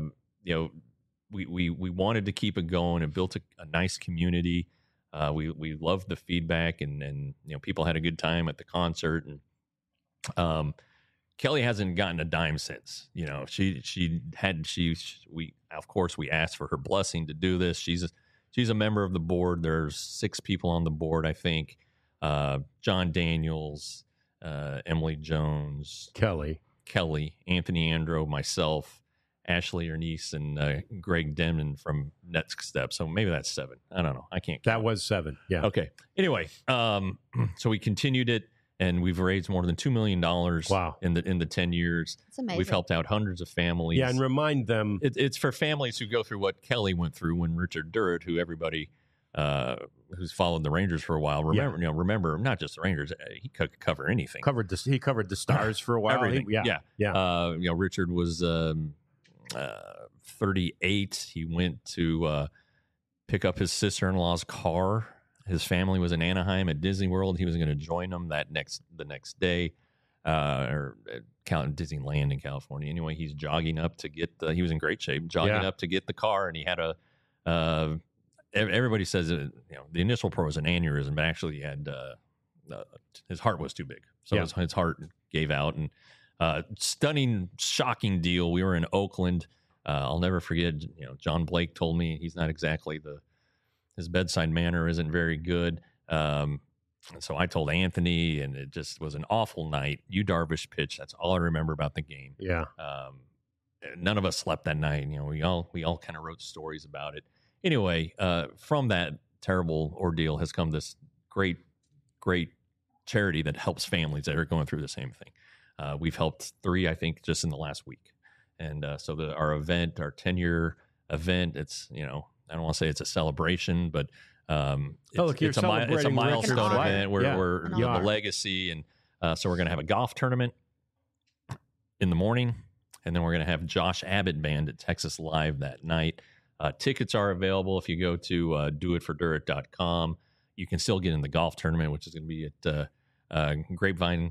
we wanted to keep it going and built a nice community. We loved the feedback and people had a good time at the concert. And, Kelly hasn't gotten a dime since, we of course we asked for her blessing to do this. She's a member of the board. There's 6 people on the board, I think. John Daniels, Emily Jones, Kelly. Anthony Andro, myself, Ashley Ernice, and Greg Denman from Next Step. So maybe that's 7. I don't know. I can't count. That was 7. Yeah. Okay. Anyway, so we continued it, and we've raised more than $2 million. Wow. In the 10 years. It's amazing. We've helped out hundreds of families. Yeah, and remind them. It's for families who go through what Kelly went through when Richard Durit, who everybody who's followed the Rangers for a while, remember not just the Rangers, he could cover anything. He covered the Stars for a while. Everything. Richard was 38. He went to pick up his sister-in-law's car. His family was in Anaheim at Disney World. He was going to join them the next day, or at Disneyland in California. Anyway, he's jogging up to get he was in great shape, up to get the car, and he had everybody says the initial report was an aneurysm, but actually he had his heart was too big, so his heart gave out. And stunning, shocking deal. We were in Oakland. I'll never forget. John Blake told me he's not exactly his bedside manner isn't very good. So I told Anthony, and it just was an awful night. Yu Darvish pitch. That's all I remember about the game. Yeah. None of us slept that night. We all kind of wrote stories about it. Anyway, from that terrible ordeal has come this great, great charity that helps families that are going through the same thing. We've helped 3, I think, just in the last week. And so our event, our 10-year event, it's, I don't want to say it's a celebration, but it's a milestone event where the legacy. And so we're going to have a golf tournament in the morning, and then we're going to have Josh Abbott Band at Texas Live that night. Tickets are available if you go to doitfordirt.com. You can still get in the golf tournament, which is going to be at Grapevine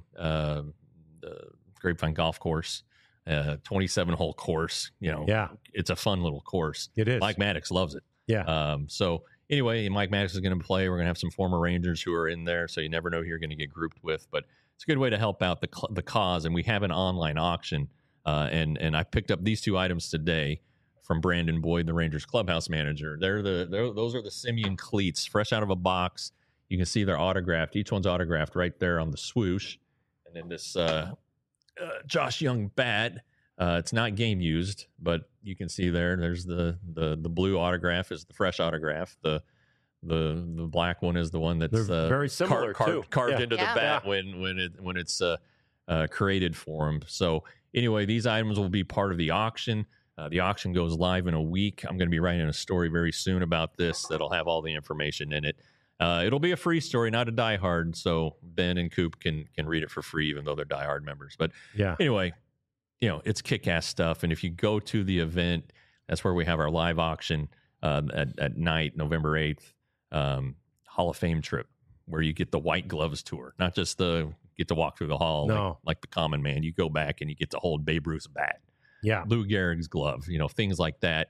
Golf Course. 27-hole course. It's a fun little course. It is. Mike Maddox loves it. Yeah. So anyway, Mike Maddox is going to play. We're going to have some former Rangers who are in there, so you never know who you're going to get grouped with. But it's a good way to help out the cause. And we have an online auction. And I picked up these 2 items today from Brandon Boyd, the Rangers clubhouse manager. Those are the Simeon cleats, fresh out of a box. You can see they're autographed. Each one's autographed right there on the swoosh. And then this Josh Young bat. It's not game used, but you can see there's the blue autograph is the fresh autograph. The black one is the one that's very similar carved into the bat when it's created for him. So anyway, these items will be part of the auction. The auction goes live in a week. I'm going to be writing a story very soon about this that'll have all the information in it. It'll be a free story, not a diehard, so Ben and Coop can read it for free, even though they're diehard members. But anyway, it's kick-ass stuff. And if you go to the event, that's where we have our live auction at night, November 8th, Hall of Fame trip, where you get the White Gloves tour, not just get to walk through the hall like the common man. You go back and you get to hold Babe Ruth's bat, Lou Gehrig's glove, things like that.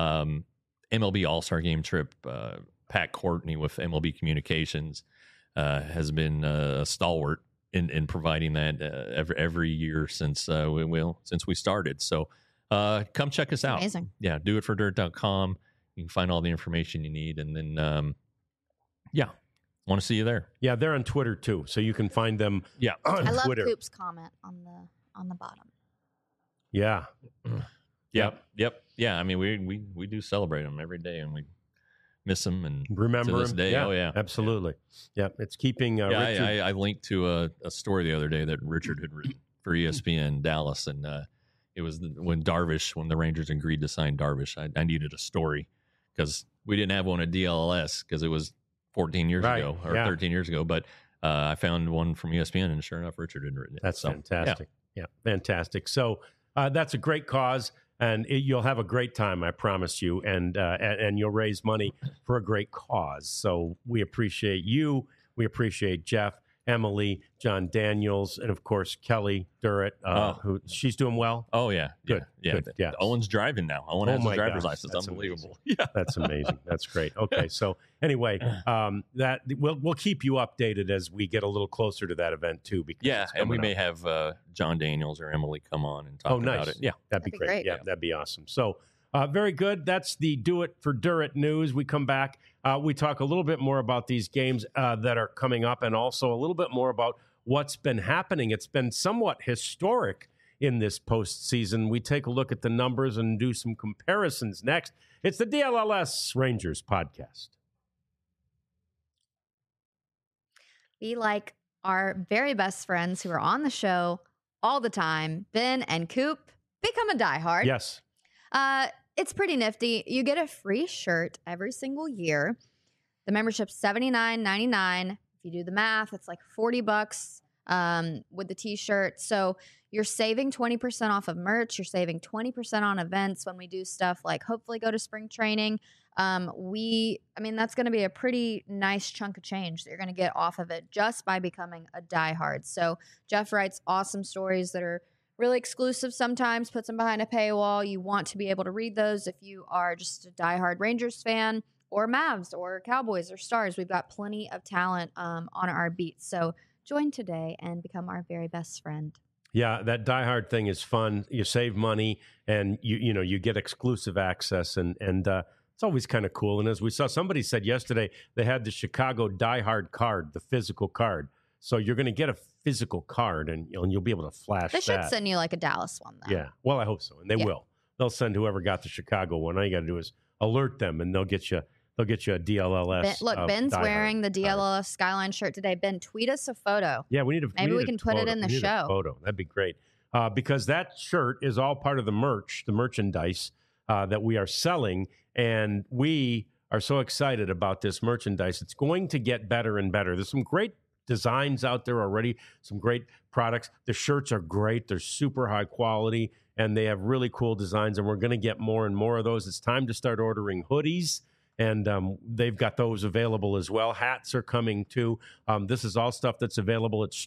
MLB All-Star Game trip. Pat Courtney with MLB Communications has been a stalwart in providing that every year since we started. So come check us out. Amazing. Yeah, doitfordirt.com. You can find all the information you need, and then want to see you there. Yeah, they're on Twitter too, so you can find them. Yeah, on I love Twitter. Coop's comment on the bottom. Yeah. Yep. Yeah, I mean we do celebrate them every day, and we miss them and remember to this day. Yeah, oh yeah, absolutely. Yeah, it's keeping. Richard. I linked to a story the other day that Richard had written for ESPN Dallas, and it was when the Rangers agreed to sign Darvish. I needed a story because we didn't have one at DLS because it was 14 years ago or 13 years ago. But I found one from ESPN, and sure enough, Richard had written it. That's fantastic. Yeah, fantastic. So that's a great cause. And you'll have a great time, I promise you, and you'll raise money for a great cause. So we appreciate you. We appreciate Jeff, Emily, John Daniels, and, of course, Kelly Durrett, who she's doing well. Oh, yeah. Good. Yeah. Owen's driving now. Owen has his driver's license. That's unbelievable. Amazing. Yeah. That's amazing. That's great. Okay. So anyway, that we'll keep you updated as we get a little closer to that event, too. Because and we may have John Daniels or Emily come on and talk about it. Yeah. That'd be great. Yeah, that'd be awesome. So very good. That's the Do It for Durrett news. We come back. We talk a little bit more about these games that are coming up, and also a little bit more about what's been happening. It's been somewhat historic in this postseason. We take a look at the numbers and do some comparisons next. It's the DLLS Rangers podcast. Be like our very best friends who are on the show all the time, Ben and Coop. Become a diehard. Yes. It's pretty nifty. You get a free shirt every single year. The membership's $79.99. If you do the math, it's like $40 with the t-shirt. So you're saving 20% off of merch. You're saving 20% on events when we do stuff like hopefully go to spring training. That's going to be a pretty nice chunk of change that you're going to get off of it just by becoming a diehard. So Jeff writes awesome stories that are really exclusive sometimes, puts them behind a paywall. You want to be able to read those if you are just a diehard Rangers fan or Mavs or Cowboys or Stars. We've got plenty of talent on our beat. So join today and become our very best friend. Yeah, that diehard thing is fun. You save money and you get exclusive access and it's always kind of cool. And as we saw, somebody said yesterday they had the Chicago diehard card, the physical card. So you're going to get a physical card and you'll be able to flash They should that. send you like a Dallas one, though. Yeah, well, I hope so, and they will. They'll send whoever got the Chicago one. All you got to do is alert them, and they'll get you a DLLS. Ben's diehard wearing the DLLS card. Skyline shirt today. Ben, tweet us a photo. Yeah, we need a Maybe we can put it in the We need a show. photo. That'd be great. Because that shirt is all part of the merchandise that we are selling, and we are so excited about this merchandise. It's going to get better and better. There's some great designs out there already, some great products. The shirts are great. They're super high quality, and they have really cool designs, and we're going to get more and more of those. It's time to start ordering hoodies, and they've got those available as well. Hats are coming too. This is all stuff that's available at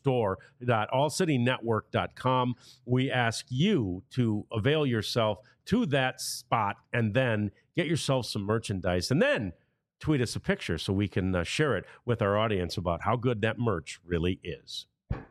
store.allcitynetwork.com. We ask you to avail yourself to that spot and then get yourself some merchandise, and then tweet us a picture so we can share it with our audience about how good that merch really is.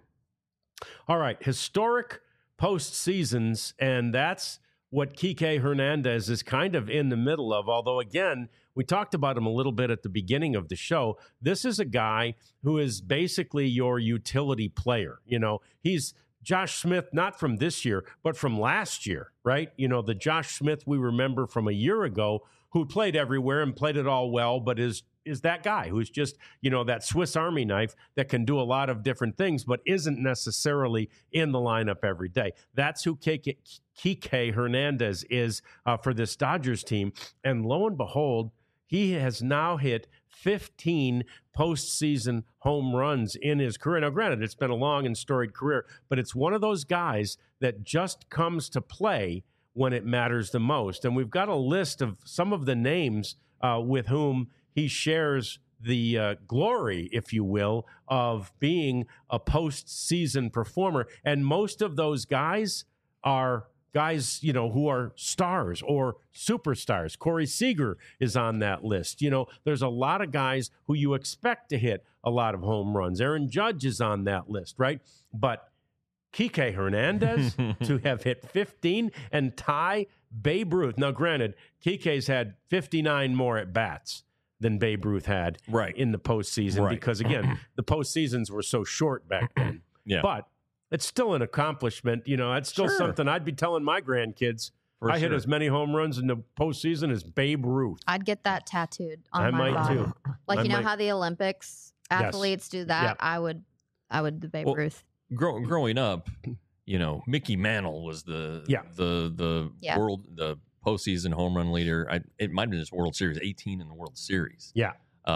All right, historic postseasons, and that's what Kike Hernandez is kind of in the middle of, although, again, we talked about him a little bit at the beginning of the show. This is a guy who is basically your utility player. He's Josh Smith, not from this year, but from last year, right? The Josh Smith we remember from a year ago who played everywhere and played it all well, but is that guy who's just, that Swiss Army knife that can do a lot of different things, but isn't necessarily in the lineup every day. That's who Kike Hernandez is for this Dodgers team. And lo and behold, he has now hit 15 postseason home runs in his career. Now, granted, it's been a long and storied career, but it's one of those guys that just comes to play when it matters the most. And we've got a list of some of the names with whom he shares the glory, if you will, of being a postseason performer. And most of those guys are guys, who are stars or superstars. Corey Seager is on that list. There's a lot of guys who you expect to hit a lot of home runs. Aaron Judge is on that list, right? But Kike Hernandez to have hit 15 and tie Babe Ruth. Now, granted, Kike's had 59 more at-bats than Babe Ruth had in the postseason because, again, the postseasons were so short back then. Yeah. But it's still an accomplishment. It's still something I'd be telling my grandkids. Hit as many home runs in the postseason as Babe Ruth. I'd get that tattooed on my body. I might too. Like, how the Olympics athletes do that? Yep. I would do Babe Ruth. Growing up, Mickey Mantle was the world, the postseason home run leader. It might have been his World Series, 18 in the World Series. Yeah.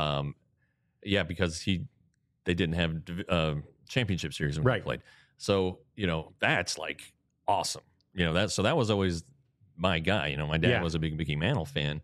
Because they didn't have championship series when he played. So, that's like awesome. That was always my guy. My dad was a big Mickey Mantle fan.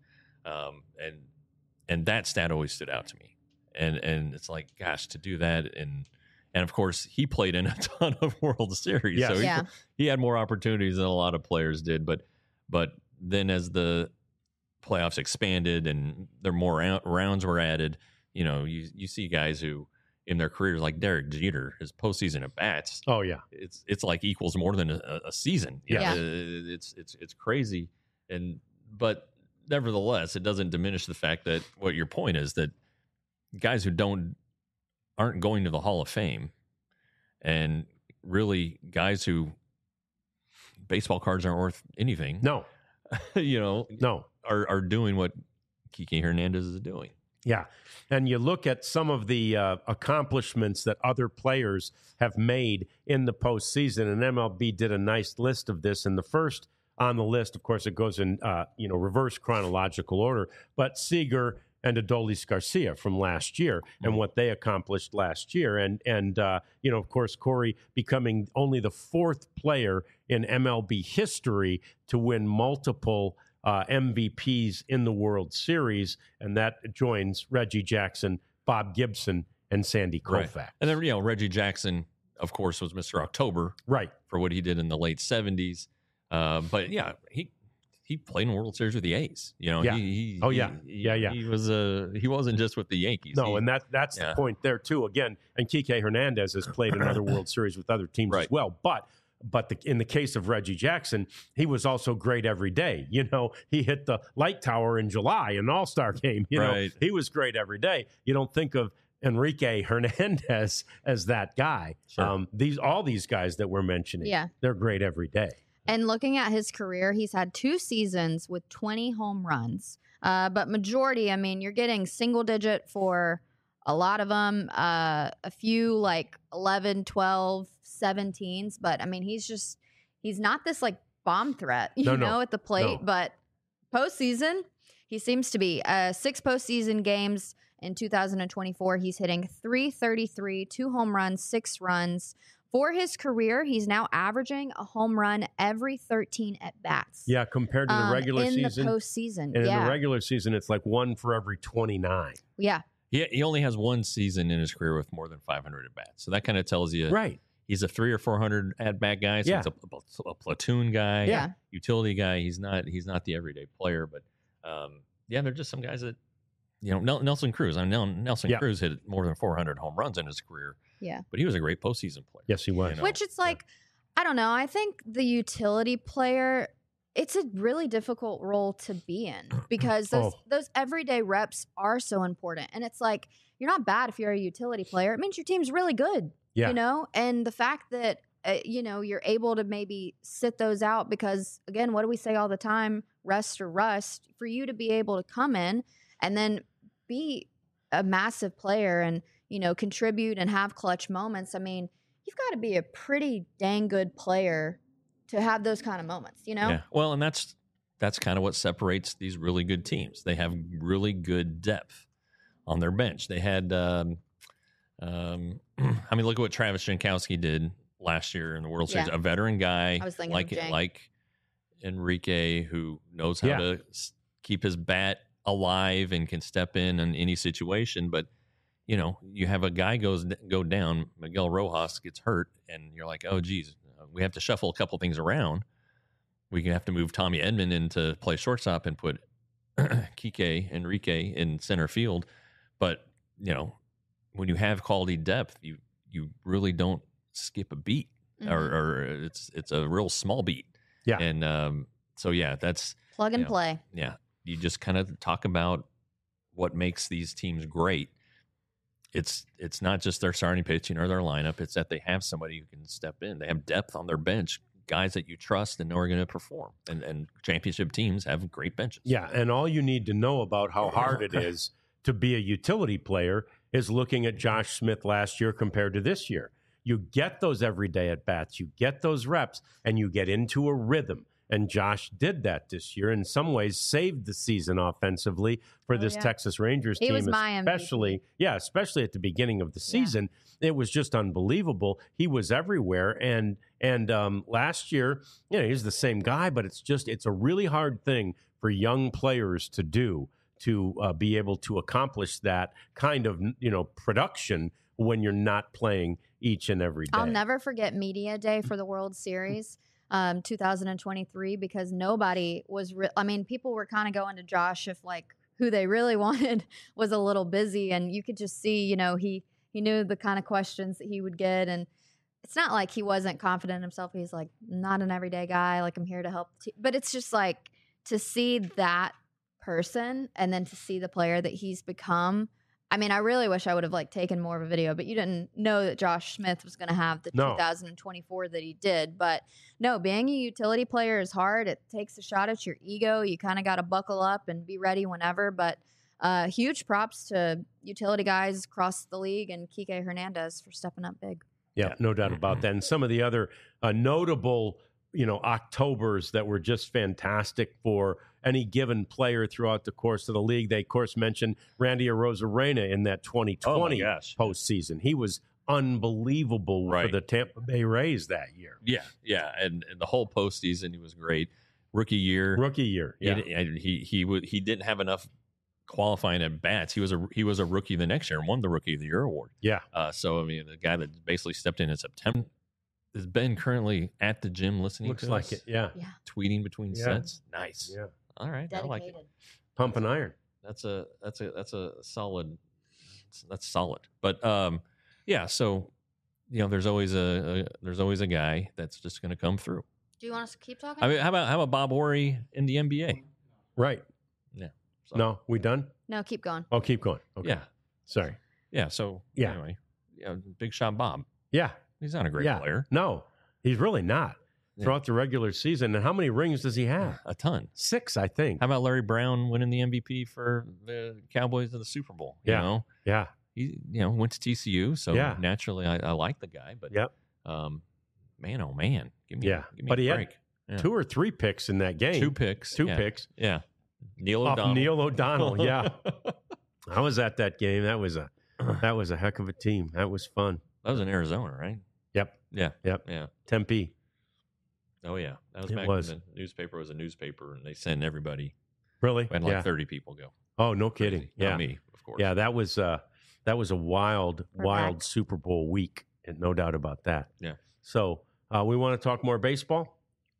And that stat always stood out to me. And it's like, gosh, to do that. And of course, he played in a ton of World Series. Yes. So he had more opportunities than a lot of players did. But then as the playoffs expanded and there more rounds were added, you see guys who in their careers like Derek Jeter, his postseason at bats. Oh yeah, it's like equals more than a season. Yeah, it's crazy. But nevertheless, it doesn't diminish the fact that what your point is that guys who aren't going to the Hall of Fame, and really guys who baseball cards aren't worth anything. No, no, are doing what Kike Hernandez is doing. Yeah. And you look at some of the accomplishments that other players have made in the postseason, and MLB did a nice list of this. And the first on the list, of course, it goes in reverse chronological order. But Seager and Adolis Garcia from last year and what they accomplished last year. And of course, Corey becoming only the 4th player in MLB history to win multiple MVPs in the World Series. And that joins Reggie Jackson, Bob Gibson, and Sandy Koufax. Right. And then, Reggie Jackson, of course, was Mr. October. Right. For what he did in the late 70s. But, yeah, he played in World Series with the A's. He wasn't just with the Yankees. No, and that's the point there too. Again, and Kike Hernandez has played another World Series with other teams as well. But in the case of Reggie Jackson, he was also great every day. He hit the light tower in July in an All-Star game. He was great every day. You don't think of Enrique Hernandez as that guy. Sure. All these guys that we're mentioning, they're great every day. And looking at his career, he's had 2 seasons with 20 home runs. But majority, you're getting single digit for a lot of them, a few like 11, 12, 17s. But, he's not this like bomb threat, at the plate. No. But postseason, he seems to be. 6 postseason games in 2024, he's hitting .333, 2 home runs, 6 runs. For his career, he's now averaging a home run every 13 at-bats. Yeah, compared to the regular season. In the postseason, And in the regular season, it's like 1 for every 29. Yeah. He only has 1 season in his career with more than 500 at-bats. So that kind of tells you he's a 300 or 400 at-bat guy. So he's a platoon guy, utility guy. He's not the everyday player. But, they're just some guys that, Nelson Cruz. Nelson Cruz hit more than 400 home runs in his career. Yeah. But he was a great postseason player. Yes, he was. Which it's like, I don't know. I think the utility player, it's a really difficult role to be in because those everyday reps are so important. And it's like, you're not bad if you're a utility player. It means your team's really good, And the fact that, you're able to maybe sit those out because, again, what do we say all the time? Rest or rust. For you to be able to come in and then be a massive player and, contribute and have clutch moments. You've got to be a pretty dang good player to have those kind of moments, Yeah. Well, and that's kind of what separates these really good teams. They have really good depth on their bench. They had, look at what Travis Jankowski did last year in the World Series. A veteran guy like Enrique who knows how to keep his bat alive and can step in any situation. But, you have a guy go down, Miguel Rojas gets hurt, and you're like, oh, geez, we have to shuffle a couple things around. We have to move Tommy Edman in to play shortstop and put Kike Enrique in center field. But, when you have quality depth, you really don't skip a beat or it's a real small beat. Yeah. And that's plug and play. Yeah. You just kind of talk about what makes these teams great. It's not just their starting pitching or their lineup. It's that they have somebody who can step in. They have depth on their bench, guys that you trust and know are going to perform. And championship teams have great benches. Yeah, and all you need to know about how hard it is to be a utility player is looking at Josh Smith last year compared to this year. You get those everyday at-bats, you get those reps, and you get into a rhythm. And Josh did that this year. In some ways, saved the season offensively for this Texas Rangers team, was my especially at the beginning of the season. It was just unbelievable. He was everywhere, and last year, he's the same guy, but it's a really hard thing for young players to do to be able to accomplish that kind of production when you're not playing each and every day. I'll never forget Media Day for the World Series. 2023, because nobody was people were kind of going to Josh if who they really wanted was a little busy, and you could just see he knew the kind of questions that he would get, and it's not like he wasn't confident in himself. He's like, not an everyday guy, I'm here to help but it's just to see that person and then to see the player that he's become. I really wish I would have taken more of a video, but you didn't know that Josh Smith was going to have the 2024 that he did. But no, being a utility player is hard. It takes a shot at your ego. You kind of got to buckle up and be ready whenever. But huge props to utility guys across the league and Kike Hernandez for stepping up big. Yeah, no doubt about that. And some of the other notable, Octobers that were just fantastic for any given player throughout the course of the league. They, of course, mentioned Randy Arozarena in that 2020 postseason. He was unbelievable for the Tampa Bay Rays that year. Yeah, and the whole postseason, he was great. Rookie year, yeah. He didn't have enough qualifying at bats. He was a rookie the next year and won the Rookie of the Year award. Yeah. So I mean, the guy that basically stepped in September has been currently at the gym listening. Looks to like us, it. Yeah. tweeting between sets. Nice. Yeah. All right. Dedicated. I like it. Pumping iron. That's a solid. That's solid. But yeah. So there's always a guy that's just going to come through. Do you want us to keep talking? I mean, how about Bob Horry in the NBA? Right. Yeah. So, No, we done? No, keep going. Oh, keep going. Okay. Yeah. Sorry. Yeah. So anyway, big shot Bob. Yeah. He's not a great player. No, he's really not. Throughout the regular season. And how many rings does he have? A ton. 6, I think. How about Larry Brown winning the MVP for the Cowboys in the Super Bowl? You know? Yeah. He went to TCU, so naturally I like the guy. But man, oh man, give me but a he break. had 2 or 3 picks in that game. 2 picks. 2 picks. Yeah. Neil Off O'Donnell. Neil O'Donnell. Yeah. I was at that game. That was a heck of a team. That was fun. That was in Arizona, right? Yep. Yeah. Yep. Yeah. Tempe. Oh yeah, that was back when the newspaper was a newspaper, and they sent everybody. Really? We had like 30 people go. Oh, no kidding. Crazy. Yeah, Not me, of course. Yeah, that was a wild Super Bowl week, and no doubt about that. Yeah. So we want to talk more baseball.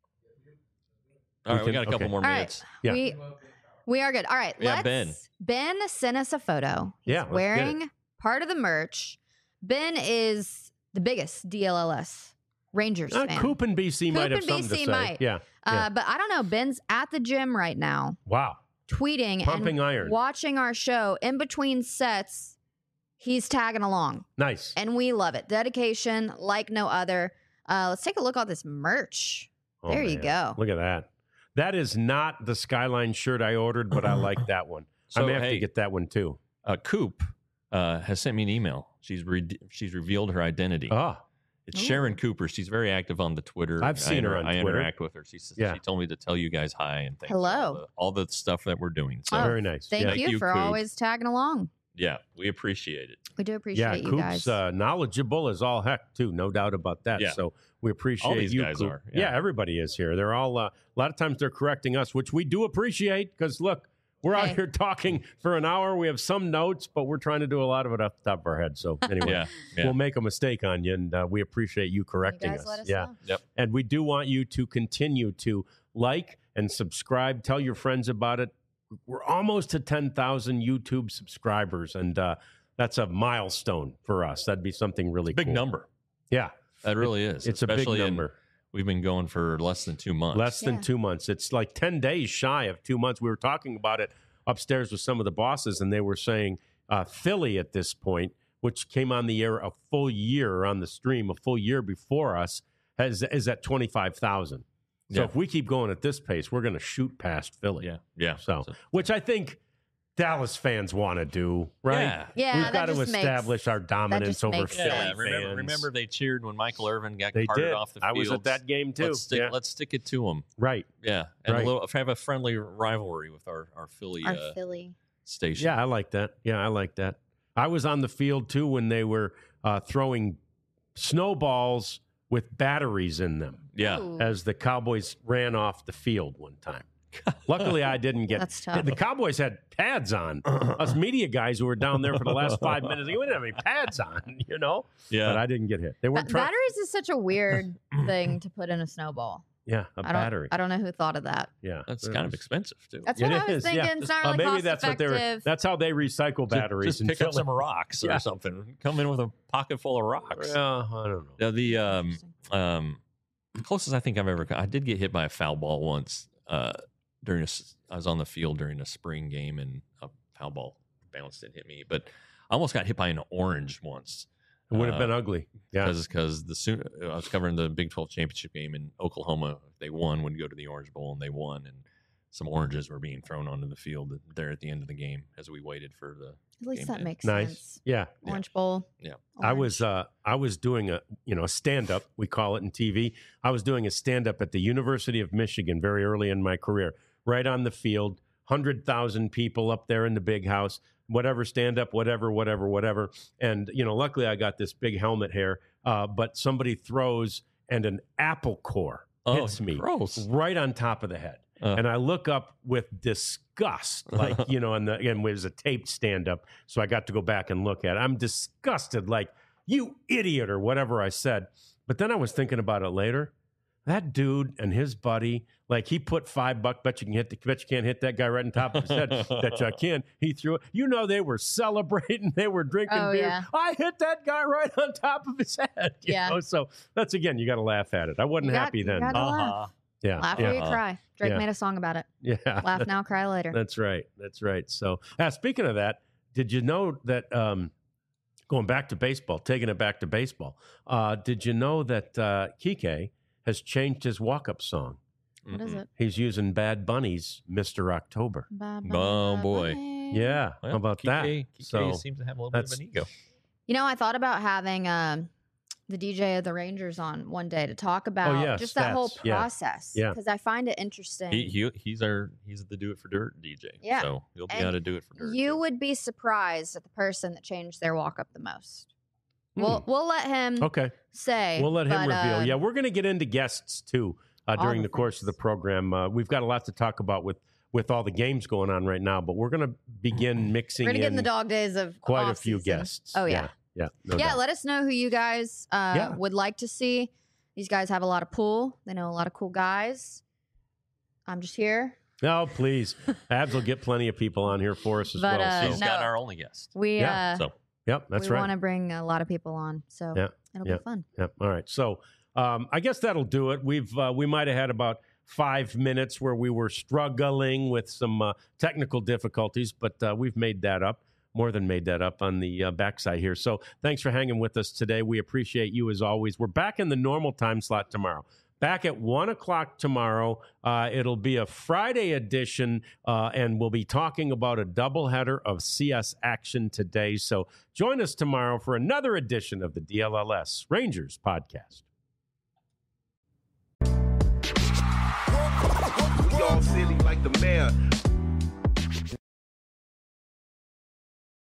All right, we got a couple more minutes. All right. Yeah. We are good. All right. Yeah, Ben sent us a photo. He's wearing part of the merch. Ben is the biggest DLLS Rangers fan. Coop and BC might have something to say. Yeah. But I don't know. Ben's at the gym right now. Wow. Tweeting Pumping and iron. watching our show. In between sets, he's tagging along. Nice. And we love it. Dedication like no other. Let's take a look at this merch. There you go. Look at that. That is not the Skyline shirt I ordered, but I like that one. So, I may have to get that one too. Coop has sent me an email. She's revealed her identity. It's Sharon Cooper. She's very active on the Twitter. I've seen her on Twitter. I interact with her. She told me to tell you guys hi and thanks Hello. for all the stuff that we're doing. So very nice. Thank you for Coop. always tagging along. Yeah, we appreciate it. We do appreciate you guys. Coop's knowledgeable as all heck too, no doubt about that. Yeah. So we appreciate all these you, guys Coop. are. Yeah, everybody is here. They're all a lot of times they're correcting us, which we do appreciate because look, we're out here talking for an hour. We have some notes, but we're trying to do a lot of it off the top of our head. So anyway, we'll make a mistake on you, and we appreciate you correcting us. Let us know. Yep. And we do want you to continue to like and subscribe. Tell your friends about it. We're almost to 10,000 YouTube subscribers, and that's a milestone for us. That'd be something really big cool. number. Yeah, that really is. It's especially a big number. We've been going for less than 2 months. Less than 2 months. It's like 10 days shy of 2 months. We were talking about it upstairs with some of the bosses, and they were saying Philly at this point, which came on the air a full year on the stream, a full year before us, is at 25,000. So if we keep going at this pace, we're going to shoot past Philly. Yeah. So, which I think Dallas fans want to do, right? Yeah. We've got to establish our dominance over Philly fans. Remember they cheered when Michael Irvin got carted off the field. I was at that game too. Let's stick it to them. Right. Yeah. And have a friendly rivalry with our Philly station. Yeah, I like that. I was on the field too when they were throwing snowballs with batteries in them. Yeah. As the Cowboys ran off the field one time. Luckily, I didn't get. That's tough. The Cowboys had pads on. Us media guys who were down there for the last 5 minutes, we didn't have any pads on, Yeah. But I didn't get hit. They weren't batteries is such a weird thing to put in a snowball. Yeah, battery. I don't know who thought of that. Yeah, that's kind of expensive too. That's what I was thinking. It's not really maybe cost that's effective. what they were. That's how they recycle batteries. Just pick up some rocks or something. Come in with a pocket full of rocks. I don't know. The closest I think I've ever. I did get hit by a foul ball once. I was on the field during a spring game and a foul ball bounced and hit me. But I almost got hit by an orange once. It would have been ugly. Yeah, because I was covering the Big 12 championship game in Oklahoma. They won. Would go to the Orange Bowl and they won. And some oranges were being thrown onto the field there at the end of the game as we waited for the. At least that makes nice. sense. Yeah, Orange Bowl. Yeah, orange. I was doing a stand up. We call it in TV. I was doing a stand up at the University of Michigan very early in my career. right on the field, 100,000 people up there in the big house, whatever, stand up, whatever. And, luckily I got this big helmet hair, but somebody throws and an apple core hits me right on top of the head. And I look up with disgust, like, and it was a taped stand-up, so I got to go back and look at it. I'm disgusted, like, you idiot, or whatever I said. But then I was thinking about it later. That dude and his buddy, like, he put $5, bet you can't hit that guy right on top of his head. Bet you can. He threw it. They were celebrating. They were drinking beer. Yeah. I hit that guy right on top of his head. You know? So that's, again, you got to laugh at it. I wasn't happy then. Laugh. Yeah. Laugh or you cry. Drake made a song about it. Yeah. Laugh now, cry later. That's right. So, speaking of that, did you know that, going back to baseball, taking it back to baseball, did you know that Kike has changed his walk-up song? What is it? He's using Bad Bunny's Mr. October. Oh, boy. Yeah. Well, how about that? Kike seems to have a little bit of an ego. I thought about having the DJ of the Rangers on one day to talk about just that whole process. Yeah. Because I find it interesting. He's the Do It for Dirt DJ. Yeah. So he'll be able to do it for dirt. You would be surprised at the person that changed their walk up the most. We'll let him say. We'll let him reveal. Yeah, we're going to get into guests too during the course of the program. We've got a lot to talk about with all the games going on right now, but we're going to begin mixing We're going to get in the dog days of quite a few guests. Oh, yeah. Yeah. No doubt. Let us know who you guys would like to see. These guys have a lot of pull. They know a lot of cool guys. I'm just here. No, please. Abs will get plenty of people on here for us as well. He's not our only guest. Yep, that's right. We want to bring a lot of people on, so it'll be fun. Yep. All right. So I guess that'll do it. We might have had about 5 minutes where we were struggling with some technical difficulties, but we've made that up. More than made that up on the backside here. So thanks for hanging with us today. We appreciate you as always. We're back in the normal time slot tomorrow. Back at 1 o'clock tomorrow. It'll be a Friday edition, and we'll be talking about a doubleheader of CS action today. So join us tomorrow for another edition of the DLLS Rangers podcast. We all silly like the mayor.